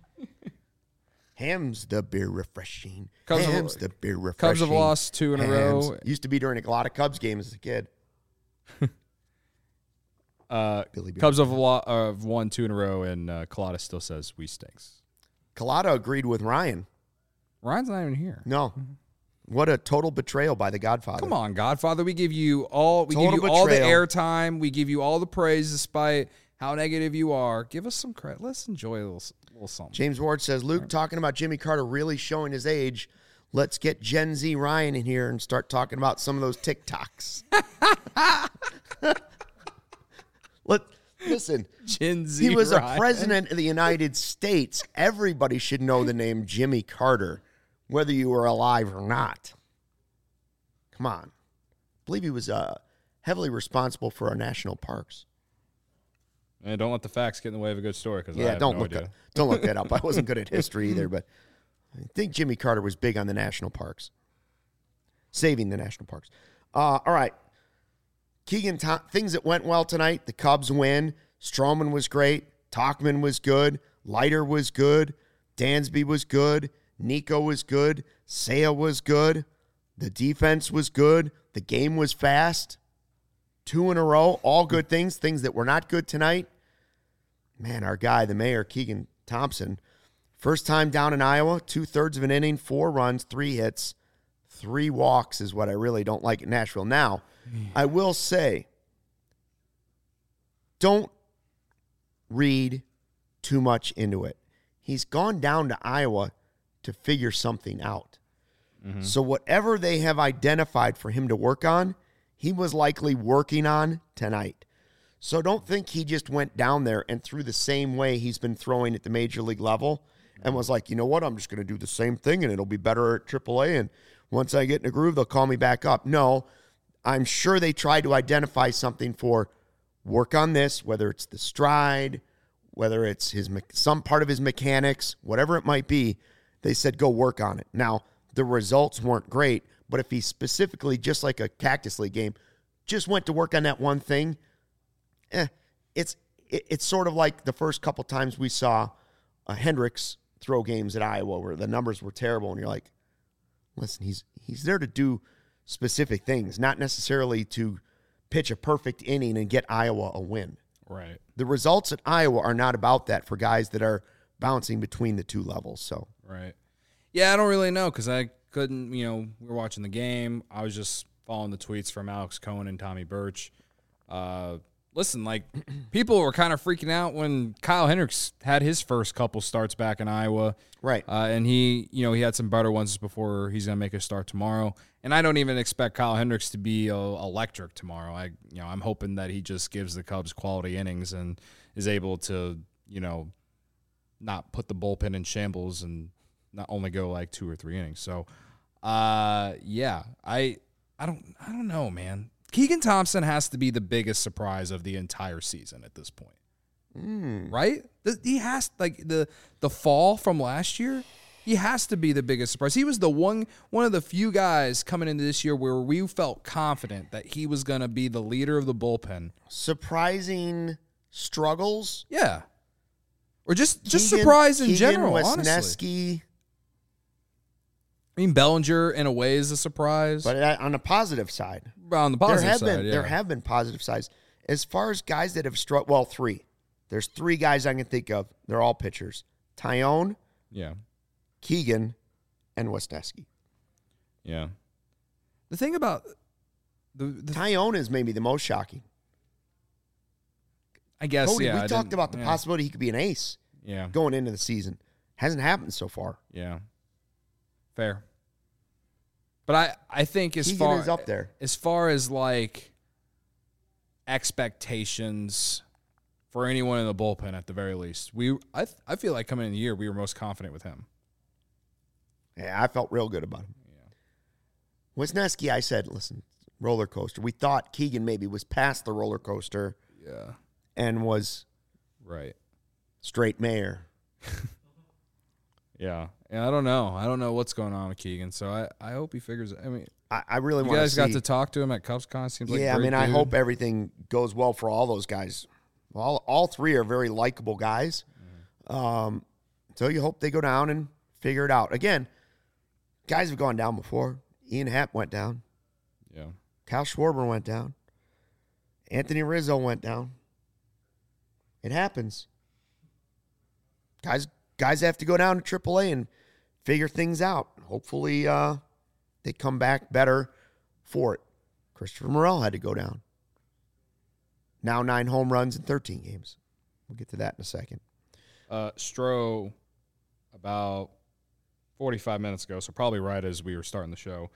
Ham's the beer refreshing. Ham's the beer refreshing. Cubs have lost 2 in a row. Used to be during a lot of Cubs games as a kid. Cubs have won 2 in a row, and Colada still says we stinks. Colada agreed with Ryan. Ryan's not even here. No. What a total betrayal by the Godfather. Come on, Godfather. We give you all. We give you all the airtime. We give you all the praise, despite how negative you are. Give us some credit. Let's enjoy a little something. James Ward says, Luke, talking about Jimmy Carter really showing his age. Let's get Gen Z Ryan in here and start talking about some of those TikToks. Listen, Gen Z he was Ryan. a president of the United States. Everybody should know the name Jimmy Carter, whether you were alive or not. Come on. I believe he was heavily responsible for our national parks. And don't let the facts get in the way of a good story. Yeah, don't look that up. I wasn't good at history either, but I think Jimmy Carter was big on the national parks, saving the national parks. All right. Keegan, things that went well tonight. The Cubs win. Stroman was great. Tauchman was good. Leiter was good. Dansby was good. Nico was good. Seiya was good. The defense was good. The game was fast. 2 in a row. All good things. Things that were not good tonight. Man, our guy, the mayor, Keegan Thompson, first time down in Iowa, 2/3 of an inning, 4 runs, 3 hits, 3 walks is what I really don't like at Nashville. Now, I will say, don't read too much into it. He's gone down to Iowa to figure something out. Mm-hmm. So whatever they have identified for him to work on, he was likely working on tonight. So don't think he just went down there and threw the same way he's been throwing at the major league level and was like, you know what, I'm just going to do the same thing and it'll be better at AAA. And once I get in a groove, they'll call me back up. No, I'm sure they tried to identify something for work on this, whether it's the stride, whether it's some part of his mechanics, whatever it might be. They said, go work on it. Now, the results weren't great, but if he specifically, just like a Cactus League game, just went to work on that one thing, it's sort of like the first couple times we saw Hendricks throw games at Iowa where the numbers were terrible, and you're like, listen, he's there to do specific things, not necessarily to pitch a perfect inning and get Iowa a win. Right. The results at Iowa are not about that for guys that are bouncing between the 2 levels. So right. Yeah, I don't really know because I couldn't, we were watching the game. I was just following the tweets from Alex Cohen and Tommy Birch. listen, like people were kind of freaking out when Kyle Hendricks had his first couple starts back in Iowa. Right. And he had some better ones before he's going to make a start tomorrow. And I don't even expect Kyle Hendricks to be electric tomorrow. I'm hoping that he just gives the Cubs quality innings and is able to, not put the bullpen in shambles and not only go like 2 or 3 innings. So, I don't know, man. Keegan Thompson has to be the biggest surprise of the entire season at this point. Right? He has, like, the fall from last year, he has to be the biggest surprise. He was the one of the few guys coming into this year where we felt confident that he was going to be the leader of the bullpen. Surprising struggles? Yeah. Or just surprise in general, honestly. Wesneski. I mean, Bellinger, in a way, is a surprise. But on the positive side. On the positive side, There have been positive sides. As far as guys that have struggled, well, 3. There's 3 guys I can think of. They're all pitchers. Tyone, Keegan, and Wesneski. Yeah. The thing about the Tyone is maybe the most shocking. I guess, Cody, we talked about the possibility he could be an ace going into the season. Hasn't happened so far. Yeah. Fair. But I think Keegan is up there. As far as like expectations for anyone in the bullpen at the very least, I feel like coming in the year we were most confident with him. Yeah, I felt real good about him. Yeah. Wesneski, I said, listen, roller coaster. We thought Keegan maybe was past the roller coaster. Yeah. And was straight mayor. Yeah. And I don't know. I don't know what's going on with Keegan. So I hope he figures it. I mean, I really want to see. You guys got to talk to him at CubsCon. Seems like I hope everything goes well for all those guys. All 3 are very likable guys. So you hope they go down and figure it out. Again, guys have gone down before. Ian Happ went down. Yeah. Kyle Schwarber went down. Anthony Rizzo went down. It happens. Guys have to go down to AAA and figure things out. Hopefully they come back better for it. Christopher Morel had to go down. Now 9 home runs in 13 games. We'll get to that in a second. Stroh, about 45 minutes ago, so probably right as we were starting the show,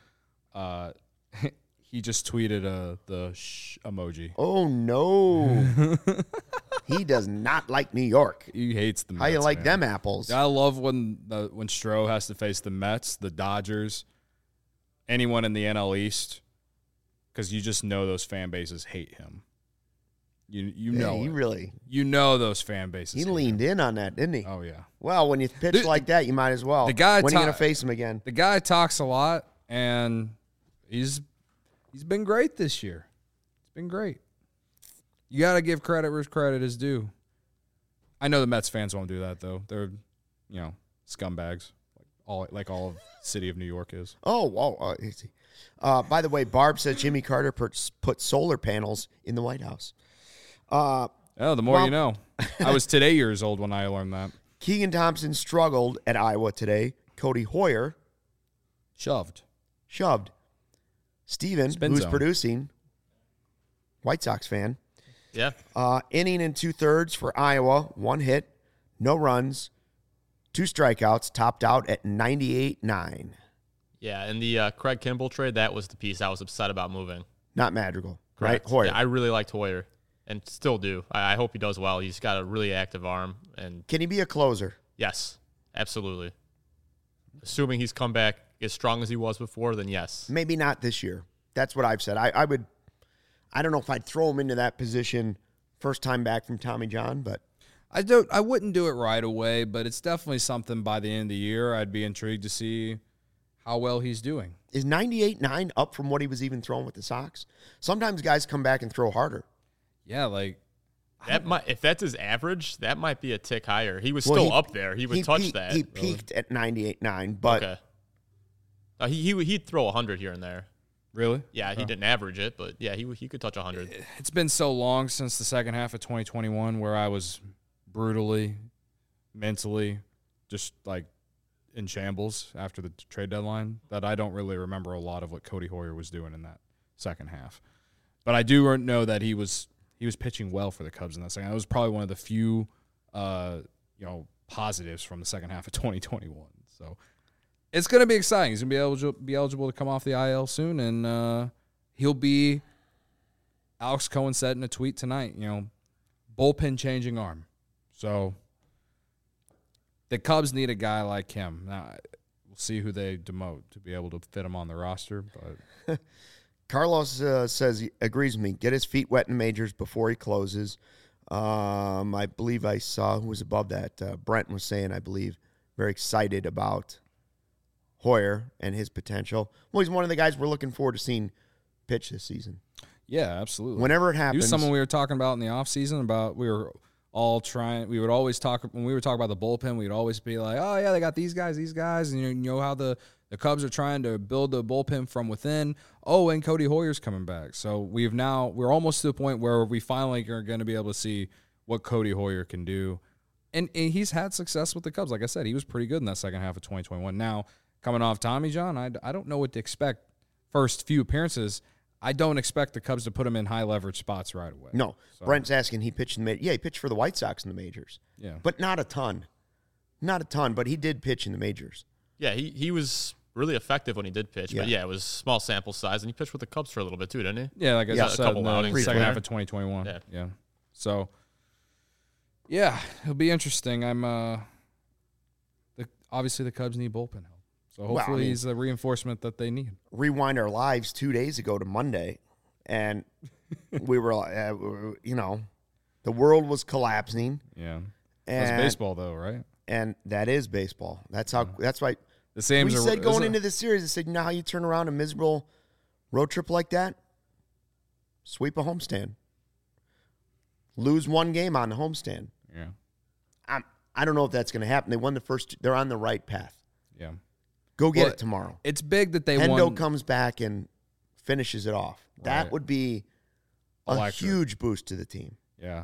he just tweeted the emoji. Oh, no. He does not like New York. He hates the Mets. How you like them apples? I love when Stroh has to face the Mets, the Dodgers, anyone in the NL East, because you just know those fan bases hate him. You know he it. Really. You know those fan bases. He leaned in on that, didn't he? Oh, yeah. Well, when you pitch like that, you might as well. When are you going to face him again? The guy talks a lot, and he's been great this year. It's been great. You got to give credit where credit is due. I know the Mets fans won't do that, though. They're, scumbags, like all of the city of New York is. Oh, easy. By the way, Barb says Jimmy Carter put solar panels in the White House. The more you know. I was today years old when I learned that. Keegan Thompson struggled at Iowa today. Cody Hoyer shoved. Steven, who's producing, White Sox fan. Yeah. Inning and 2/3 for Iowa. 1 hit, no runs, 2 strikeouts, topped out at 98.9. Yeah, and the Craig Kimball trade, that was the piece I was upset about moving. Not Madrigal, Correct. right? Hoyer. Yeah, I really liked Hoyer and still do. I hope he does well. He's got a really active arm. And can he be a closer? Yes, absolutely. Assuming he's come back as strong as he was before, then yes. Maybe not this year. That's what I've said. I don't know if I'd throw him into that position first time back from Tommy John, but I wouldn't do it right away, but it's definitely something by the end of the year I'd be intrigued to see how well he's doing. Is 98.9 up from what he was even throwing with the Sox? Sometimes guys come back and throw harder. Yeah, like if that's his average, that might be a tick higher. He was still up there. He would touch that. He peaked at 98.9, but okay. He'd throw 100 here and there. Really? Yeah, he didn't average it, but yeah, he could touch 100. It's been so long since the second half of 2021 where I was brutally, mentally, just like in shambles after the trade deadline that I don't really remember a lot of what Cody Hoyer was doing in that second half. But I do know that he was he was pitching well for the Cubs in that second. That was probably one of the few, positives from the second half of 2021. So it's going to be exciting. He's going to be eligible to come off the IL soon, and he'll be. Alex Cohen said in a tweet tonight, bullpen changing arm. So the Cubs need a guy like him. Now, we'll see who they demote to be able to fit him on the roster. But Carlos says he agrees with me. Get his feet wet in the majors before he closes. I believe I saw who was above that. Brent was saying, I believe, very excited about Hoyer and his potential. Well, he's one of the guys we're looking forward to seeing pitch this season. yeah, absolutely. Whenever it He happens. was someone we were talking about in the offseason about we would always talk when we were talking about the bullpen, we'd always be like, oh yeah, they got these guys, and you know how the Cubs are trying to build the bullpen from within. Oh, and Cody Hoyer's coming back. So we're almost to the point where we finally are going to be able to see what Cody Hoyer can do. And he's had success with the Cubs. Like I said, he was pretty good in that second half of 2021. Now, coming off Tommy John, I don't know what to expect first few appearances. I don't expect the Cubs to put him in high leverage spots right away. No. So, Brent's asking, he pitched in the majors. Yeah, he pitched for the White Sox in the majors. yeah. But not a ton. Not a ton, but he did pitch in the majors. Yeah, he was really effective when he did pitch. But, Yeah. yeah, it was small sample size. And he pitched with the Cubs for a little bit, too, didn't he? Yeah, like I Yeah, said, a couple in the outings. second half Pre-player. of 2021. Yeah. So, yeah, it'll be interesting. Obviously the Cubs need bullpen help. So Well, hopefully I mean- he's the reinforcement that they need. Rewind our lives 2 days ago to Monday, and we were, the world was collapsing. Yeah. And, That's baseball though, right? And that is baseball. That's how. That's why The same we said going into this series. I said, you know how you turn around a miserable road trip like that? Sweep a homestand. Lose one game on the homestand. Yeah. I don't know if that's going to happen. They won the first. They're on the right path. Yeah. Go get Well, it tomorrow. It's big that they Hendo won. comes back and finishes it off. That Right. would be a Electric. huge boost to the team. Yeah.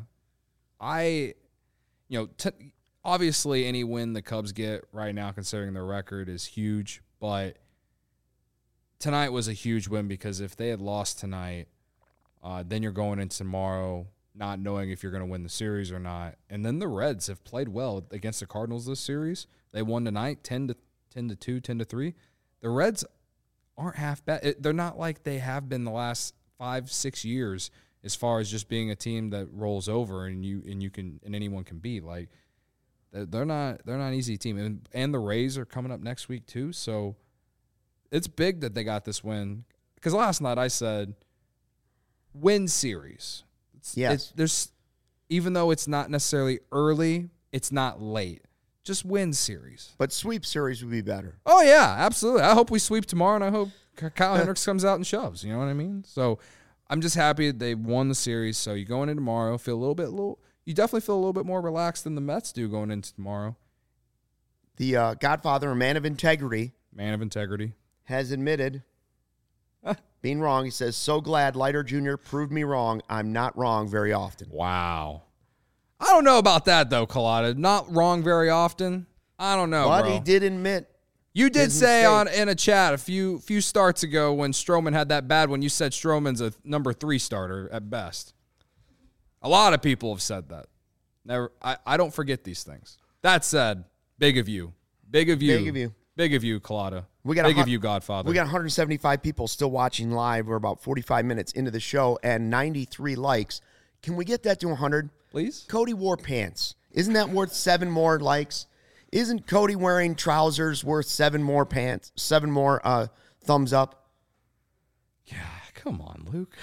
Obviously any win the Cubs get right now, considering their record, is huge. But tonight was a huge win because if they had lost tonight, then you're going into tomorrow not knowing if you're going to win the series or not. And then the Reds have played well against the Cardinals this series. They won tonight 10-2, 10-3. The Reds aren't half bad. They're not like they have been the last 5-6 years as far as just being a team that rolls over and anyone can beat. Like they're not an easy team. And the Rays are coming up next week too. So it's big that they got this win. Because last night I said win series. Yes. There's even though it's not necessarily early, it's not late. Just win series. But sweep series would be better. Oh yeah, absolutely. I hope we sweep tomorrow, and I hope Kyle Hendricks comes out and shoves. You know what I mean? So I'm just happy that they won the series. So you go into tomorrow, you definitely feel a little bit more relaxed than the Mets do going into tomorrow. The Godfather, a man of integrity, has admitted being wrong. He says, so glad Leiter Jr. proved me wrong. I'm not wrong very often. Wow. I don't know about that though, Collada. Not wrong very often. I don't know, But bro. he did admit. You did his say mistake. in a chat a few starts ago when Stroman had that bad one, you said Stroman's a number 3 starter at best. A lot of people have said that. Never. I don't forget these things. That said, big of you. Big of you. Big of you. Big of you, Collada. We got big of you, Godfather. We got 175 people still watching live. We're about 45 minutes into the show and 93 likes. Can we get that to 100? Please? Cody wore pants. Isn't that worth 7 more likes? Isn't Cody wearing trousers worth 7 more pants? 7 more thumbs up? Yeah, come on, Luke.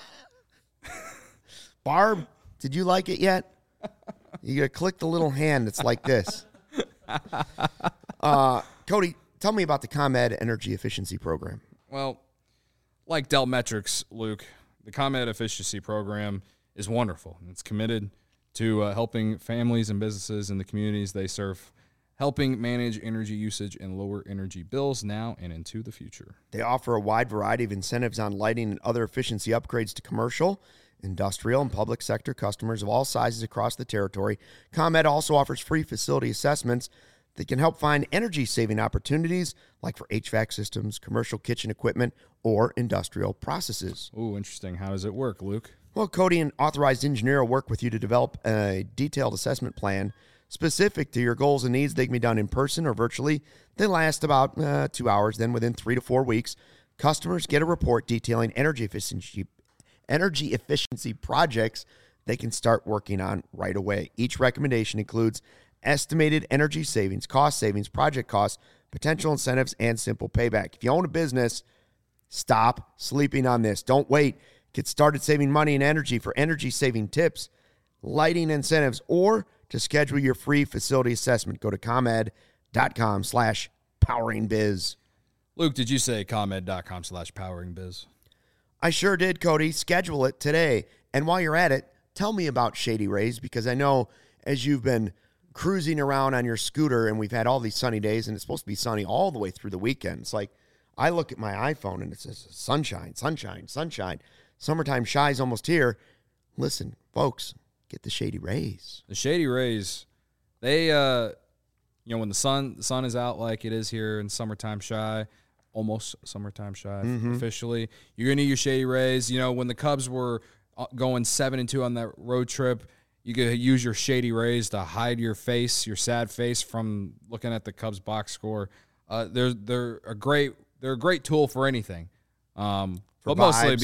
Barb, did you like it yet? You gotta click the little hand that's like this. Cody, tell me about the ComEd Energy Efficiency Program. Well, like Dell Metrics, Luke, the ComEd Efficiency Program is wonderful. It's committed to helping families and businesses in the communities they serve, helping manage energy usage and lower energy bills now and into the future. They offer a wide variety of incentives on lighting and other efficiency upgrades to commercial, industrial, and public sector customers of all sizes across the territory. ComEd also offers free facility assessments that can help find energy-saving opportunities like for HVAC systems, commercial kitchen equipment, or industrial processes. Ooh, interesting. How does it work, Luke? Well, Cody, an authorized engineer will work with you to develop a detailed assessment plan specific to your goals and needs. They can be done in person or virtually. They last about 2 hours. Then within 3 to 4 weeks, customers get a report detailing energy efficiency projects they can start working on right away. Each recommendation includes estimated energy savings, cost savings, project costs, potential incentives, and simple payback. If you own a business, stop sleeping on this. Don't wait. Get started saving money and energy. For energy saving tips, lighting incentives, or to schedule your free facility assessment, go to ComEd.com/poweringbiz. Luke, did you say ComEd.com/poweringbiz? I sure did, Cody. Schedule it today. And while you're at it, tell me about Shady Rays, because I know as you've been cruising around on your scooter and we've had all these sunny days, and it's supposed to be sunny all the way through the weekend. It's like I look at my iPhone and it says sunshine, sunshine, sunshine. Summertime shy is almost here. Listen, folks, get the Shady Rays. The Shady Rays, they, when the sun is out like it is here in summertime shy, almost summertime shy officially, you're going to need your Shady Rays. You know, when the Cubs were going 7-2 on that road trip, you could use your Shady Rays to hide your face, your sad face, from looking at the Cubs box score. They're a great tool for anything. But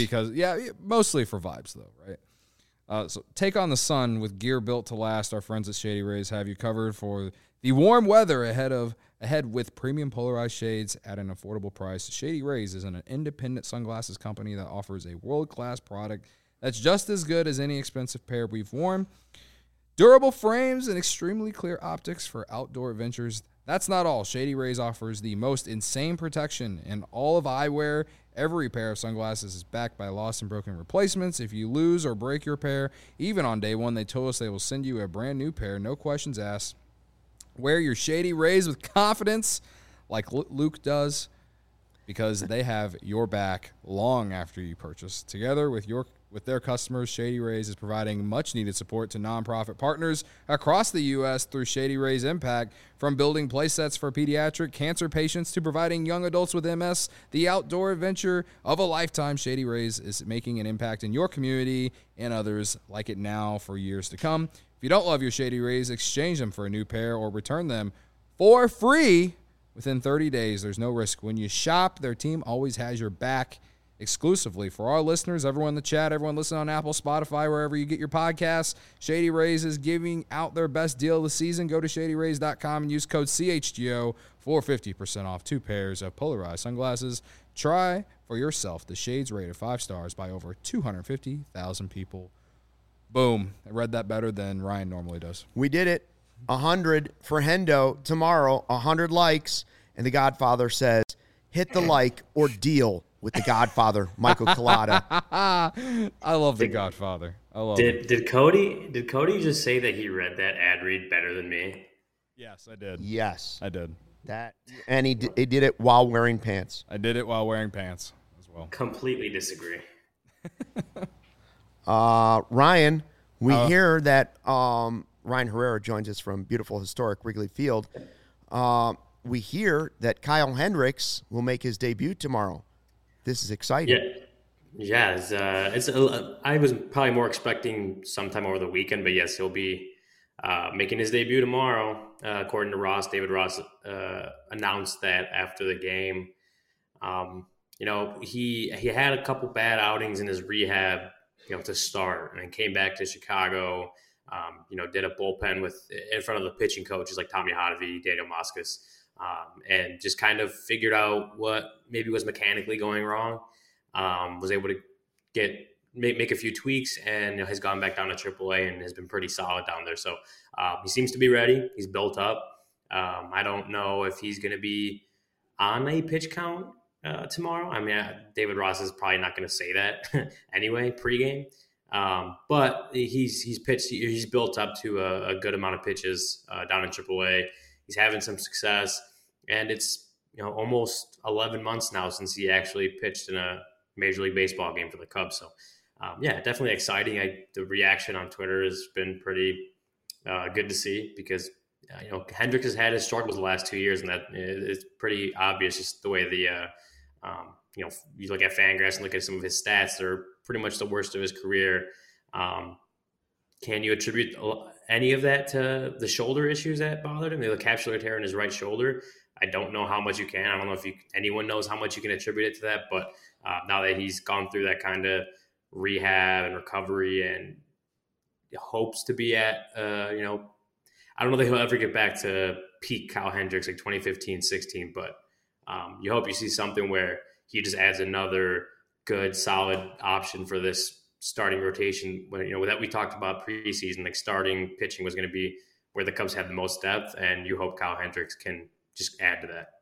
mostly for vibes though, right? So take on the sun with gear built to last. Our friends at Shady Rays have you covered for the warm weather ahead with premium polarized shades at an affordable price. Shady Rays is an independent sunglasses company that offers a world-class product that's just as good as any expensive pair we've worn. Durable frames and extremely clear optics for outdoor adventures. That's not all. Shady Rays offers the most insane protection in all of eyewear. Every pair of sunglasses is backed by lost and broken replacements. If you lose or break your pair, even on day one, they told us they will send you a brand new pair, no questions asked. Wear your Shady Rays with confidence like Luke does, because they have your back long after you purchase. Together with their customers, Shady Rays is providing much-needed support to nonprofit partners across the U.S. through Shady Rays Impact. From building playsets for pediatric cancer patients to providing young adults with MS the outdoor adventure of a lifetime, Shady Rays is making an impact in your community and others like it now for years to come. If you don't love your Shady Rays, exchange them for a new pair or return them for free within 30 days. There's no risk. When you shop, their team always has your back. Exclusively for our listeners, everyone in the chat, everyone listening on Apple, Spotify, wherever you get your podcasts, Shady Rays is giving out their best deal of the season. Go to ShadyRays.com and use code CHGO for 50% off 2 pairs of polarized sunglasses. Try for yourself the shades rated 5 stars by over 250,000 people. Boom. I read that better than Ryan normally does. We did it. 100 for Hendo tomorrow, 100 likes, and the Godfather says, hit the like or deal with the Godfather, Michael Collada. I love the Godfather. I love it. Did Cody just say that he read that ad read better than me? Yes, I did. Yes. I did. And he did it while wearing pants. I did it while wearing pants as well. Completely disagree. Ryan, we hear that Ryan Herrera joins us from beautiful historic Wrigley Field. We hear that Kyle Hendricks will make his debut tomorrow. This is exciting. Yeah. I was probably more expecting sometime over the weekend, but yes, he'll be making his debut tomorrow. According to Ross, David Ross announced that after the game. He had a couple bad outings in his rehab, to start, and came back to Chicago. Did a bullpen in front of the pitching coaches like Tommy Hotovy, Daniel Moscas. And just kind of figured out what maybe was mechanically going wrong. Was able to make a few tweaks, and has gone back down to AAA and has been pretty solid down there. So he seems to be ready. He's built up. I don't know if he's going to be on a pitch count tomorrow. I mean, David Ross is probably not going to say that anyway pregame. But he's pitched. He's built up to a good amount of pitches down in AAA. He's having some success, and it's almost 11 months now since he actually pitched in a Major League Baseball game for the Cubs. So, definitely exciting. The reaction on Twitter has been pretty good to see, because Hendricks has had his struggles the last 2 years, and that it's pretty obvious just the way the You look at Fangraphs and look at some of his stats; they're pretty much the worst of his career. Can you attribute any of that to the shoulder issues that bothered him? The capsular tear in his right shoulder. I don't know how much you can. I don't know if anyone knows how much you can attribute it to that. But now that he's gone through that kind of rehab and recovery and hopes to be at, I don't know that he'll ever get back to peak Kyle Hendricks like 2015, 16. But you hope you see something where he just adds another good, solid option for this starting rotation. When that we talked about preseason, like starting pitching was going to be where the Cubs had the most depth, and you hope Kyle Hendricks can just add to that.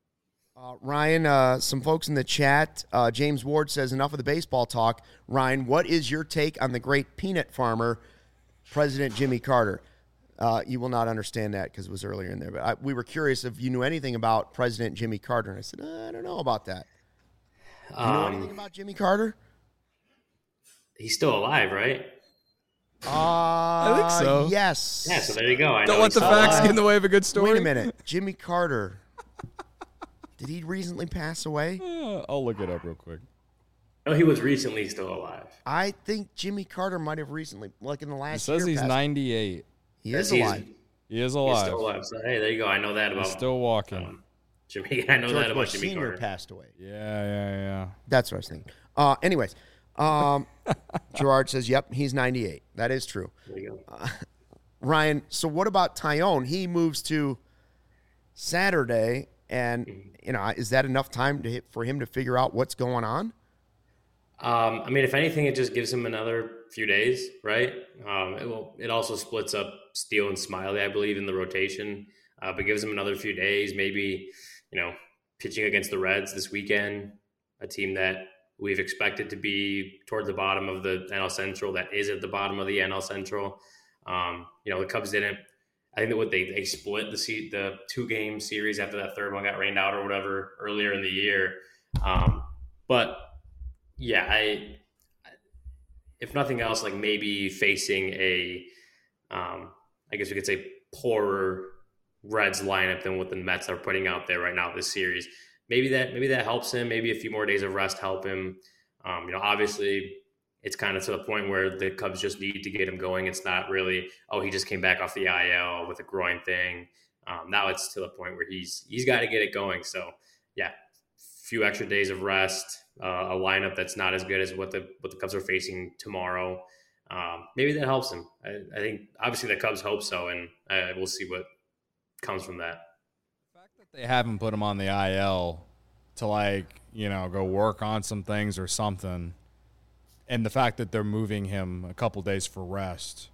Ryan, some folks in the chat, James Ward says, enough of the baseball talk. Ryan, what is your take on the great peanut farmer, President Jimmy Carter? You will not understand that because it was earlier in there, but we were curious if you knew anything about President Jimmy Carter, and I said, I don't know about that. Do you know anything about Jimmy Carter? He's still alive, right? I think so. Yes. Yeah, so there you go. Don't let the facts get in the way of a good story. Wait a minute. Jimmy Carter. Did he recently pass away? I'll look it up real quick. No, he was recently still alive. I think Jimmy Carter might have recently, like in the last year. It says he's 98. He is alive. He is alive. He's still alive. So, hey, there you go. I know that about He's still walking. Jimmy. I know George that about Bush Jimmy Sr. Carter. passed away. Yeah. That's what I was thinking. Anyways, Gerard says, yep, he's 98. That is true. There you go. Ryan, so what about Taillon? He moves to Saturday, and is that enough time for him to figure out what's going on? I mean, if anything, it just gives him another few days, right? It also splits up Steele and Smiley, I believe, in the rotation, but gives him another few days. Maybe, pitching against the Reds this weekend, a team that we've expected to be toward the bottom of the NL Central, that is at the bottom of the NL Central. The Cubs didn't. I think that they split the 2-game series after that third one got rained out or whatever earlier in the year. But yeah, if nothing else, like maybe facing I guess we could say poorer Reds lineup than what the Mets are putting out there right now this series. Maybe that helps him. Maybe a few more days of rest help him. Obviously it's kind of to the point where the Cubs just need to get him going. It's not really, he just came back off the IL with a groin thing. Now it's to the point where he's got to get it going. So yeah, few extra days of rest, a lineup that's not as good as what the Cubs are facing tomorrow. Maybe that helps him. I think obviously the Cubs hope so, and we'll see what comes from that. The fact that they haven't put him on the IL to go work on some things or something, and the fact that they're moving him a couple days for rest,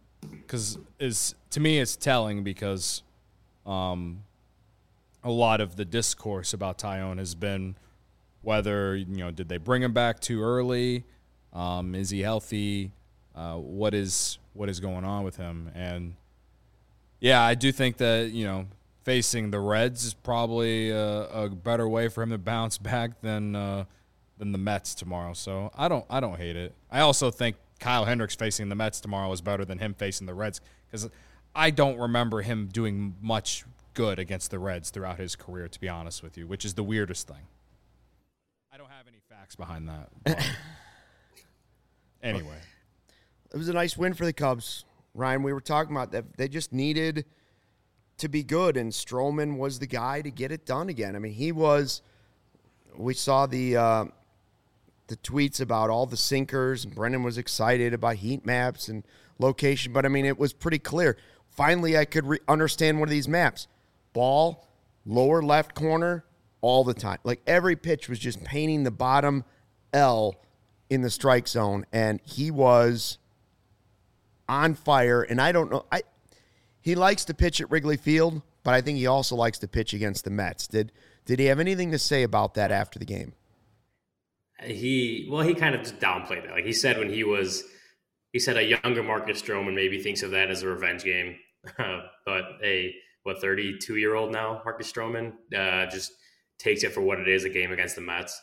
to me it's telling because a lot of the discourse about Taillon has been whether did they bring him back too early, is he healthy, what is going on with him. And yeah, I do think that facing the Reds is probably a better way for him to bounce back than the Mets tomorrow. So I don't hate it. I also think Kyle Hendricks facing the Mets tomorrow is better than him facing the Reds, because I don't remember him doing much good against the Reds throughout his career, to be honest with you, which is the weirdest thing. I don't have any facts behind that. But anyway. It was a nice win for the Cubs. Ryan, we were talking about that. They just needed to be good, and Stroman was the guy to get it done again. I mean, we saw the tweets about all the sinkers, and Brendan was excited about heat maps and location, but I mean, it was pretty clear. Finally, I could understand one of these maps. Ball, lower left corner, all the time. Like every pitch was just painting the bottom L in the strike zone, and he was on fire. And I don't know, he likes to pitch at Wrigley Field, but I think he also likes to pitch against the Mets. Did he have anything to say about that after the game? He kind of just downplayed that. Like he said he said a younger Marcus Stroman maybe thinks of that as a revenge game. But a 32-year-old now, Marcus Stroman, just takes it for what it is, a game against the Mets.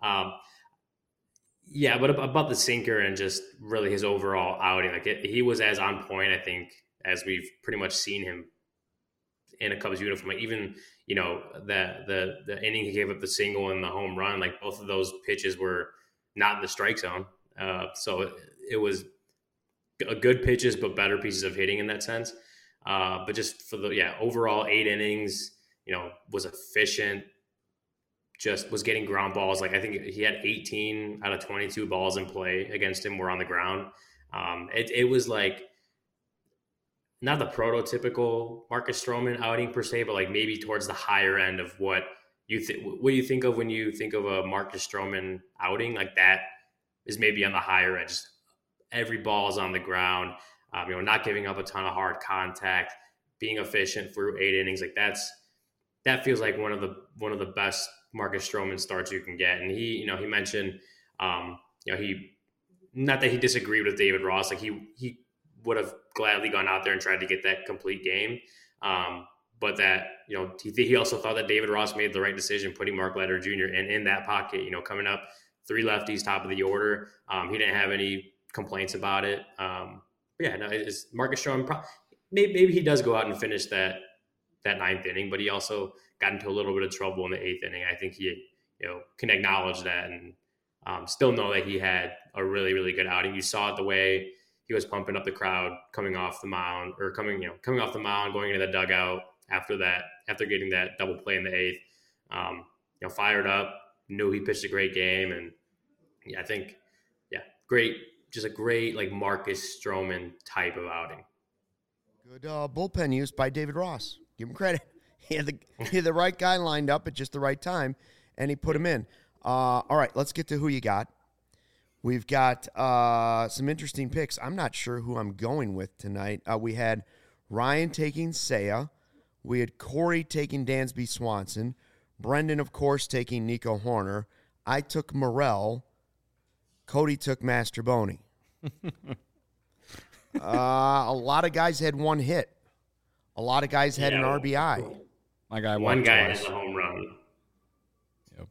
Yeah, but about the sinker and just really his overall outing, he was as on point, I think, as we've pretty much seen him in a Cubs uniform. Even the inning he gave up the single and the home run, like both of those pitches were not in the strike zone. So it was a good pitches, but better pieces of hitting in that sense. But just for overall 8 innings, was efficient, just was getting ground balls. Like I think he had 18 out of 22 balls in play against him were on the ground. It was like not the prototypical Marcus Stroman outing per se, but like maybe towards the higher end of what you think of when you think of a Marcus Stroman outing. Like that is maybe on the higher end. Just every ball is on the ground. Not giving up a ton of hard contact, being efficient through 8 innings. Like that feels like one of the best Marcus Stroman starts you can get. And he mentioned, he, not that he disagreed with David Ross, like he would have gladly gone out there and tried to get that complete game. But that, he also thought that David Ross made the right decision putting Mark Leiter Jr. in that pocket, coming up 3 lefties, top of the order. He didn't have any complaints about it. It's Marcus Stroman. Maybe he does go out and finish that 9th inning, but he also got into a little bit of trouble in the 8th inning. I think he, can acknowledge that and still know that he had a really, really good outing. You saw it the way he was pumping up the crowd coming off the mound, or coming off the mound, going into the dugout after getting that double play in the 8th. Fired up, knew he pitched a great game, and I think, great, just a great like Marcus Stroman type of outing. Good bullpen use by David Ross. Give him credit. He had the right guy lined up at just the right time, and he put him in. All right, let's get to who you got. We've got some interesting picks. I'm not sure who I'm going with tonight. We had Ryan taking Seiya. We had Corey taking Dansby Swanson. Brendan, of course, taking Nico Horner. I took Morel. Cody took Mastroboni. A lot of guys had one hit. A lot of guys had an RBI. My guy one guy twice. had a home run. Yep.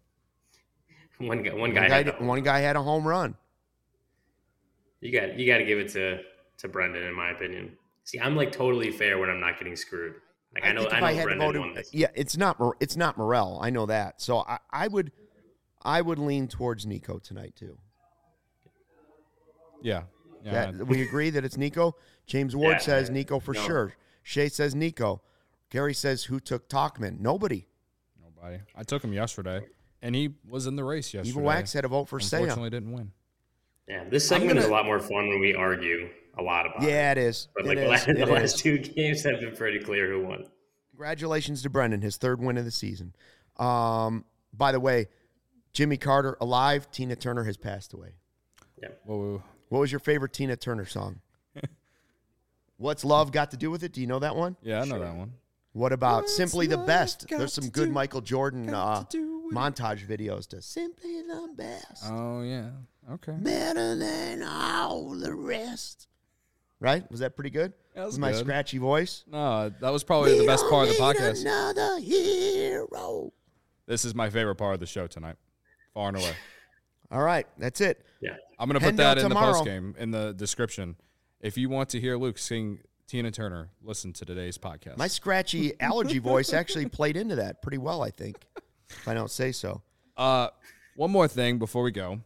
One guy had a home run. You got to give it to Brendan, in my opinion. See, I'm like totally fair when I'm not getting screwed. Like I know Brendan won this. Yeah, it's not Morel. I know that. So I would lean towards Nico tonight too. Yeah. We agree that it's Nico. James Ward says Nico for sure. Shay says Nico. Gary says who took Tauchman? Nobody. I took him yesterday, and he was in the race yesterday. Evil Wax had a vote for Seiya. Unfortunately, didn't win. Yeah, this segment is a lot more fun when we argue a lot about it. Yeah, it is. But the last 2 games have been pretty clear who won. Congratulations to Brendan, his 3rd win of the season. By the way, Jimmy Carter alive. Tina Turner has passed away. Yeah. Whoa. What was your favorite Tina Turner song? What's Love Got to Do with It? Do you know that one? Yeah, I know that one. What about Simply the Best? There's some good Michael Jordan montage videos to Simply the Best. Oh, yeah. Okay. Better than all the rest. Right? Was that pretty good? That was my good. Scratchy voice? No, that was probably the best part of the podcast. Another hero. This is my favorite part of the show tonight, far and away. All right, that's it. Yeah. I'm going to put that in the postgame, in the description. If you want to hear Luke sing Tina Turner, listen to today's podcast. My scratchy allergy voice actually played into that pretty well, I think, if I don't say so. One more thing before we go.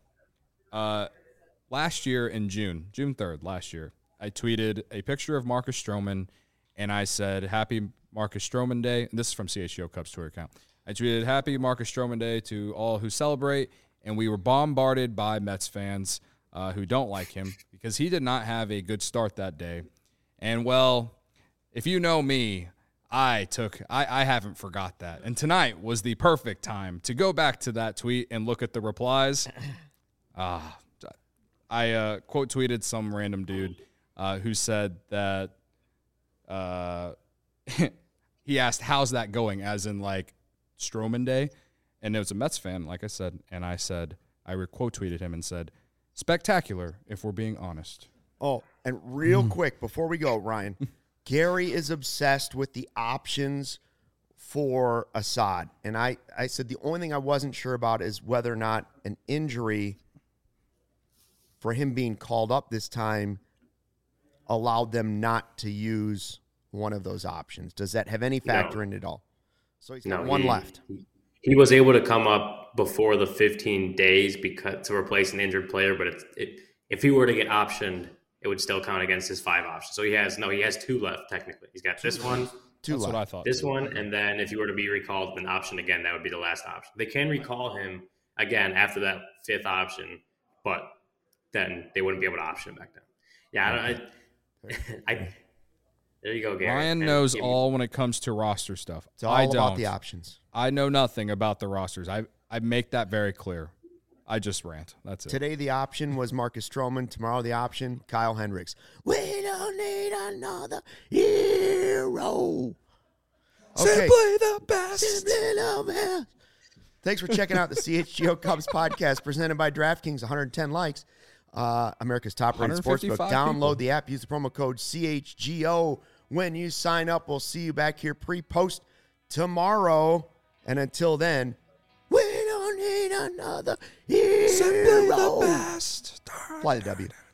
Last year in June 3rd last year, I tweeted a picture of Marcus Stroman, and I said, Happy Marcus Stroman Day. And this is from CHGO Cubs Twitter account. I tweeted, Happy Marcus Stroman Day to all who celebrate, and we were bombarded by Mets fans who don't like him because he did not have a good start that day. And, well, if you know me, I haven't forgot that. And tonight was the perfect time to go back to that tweet and look at the replies. I quote tweeted some random dude who said that he asked, how's that going? As in like Stroman Day. And it was a Mets fan, like I said. And I said, I quote tweeted him and said, spectacular, if we're being honest. Oh, and real quick, before we go, Ryan, Gary is obsessed with the options for Assad. And I said the only thing I wasn't sure about is whether or not an injury for him being called up this time allowed them not to use one of those options. Does that have any factor in it at all? So he's got one left. He was able to come up before the 15 days to replace an injured player, but if he were to get optioned, it would still count against his 5 options. So he has 2 left technically. He's got this one, That's what I thought. this one, and then if he were to be recalled an option again, that would be the last option. They can recall him again after that 5th option, but then they wouldn't be able to option him back then. Yeah, there you go, Gary. Ryan knows all when it comes to roster stuff. It's all about the options. I know nothing about the rosters. I make that very clear. I just rant. That's it. Today the option was Marcus Stroman. Tomorrow the option, Kyle Hendricks. We don't need another hero. Okay. Simply the best. Simply the best. Thanks for checking out the CHGO Cubs podcast presented by DraftKings. 110 likes. America's top-rated sportsbook. 155 Download people. the app. Use the promo code CHGO when you sign up. We'll see you back here pre-post tomorrow. And until then, we don't need another hero. Simply the best. Fly the W.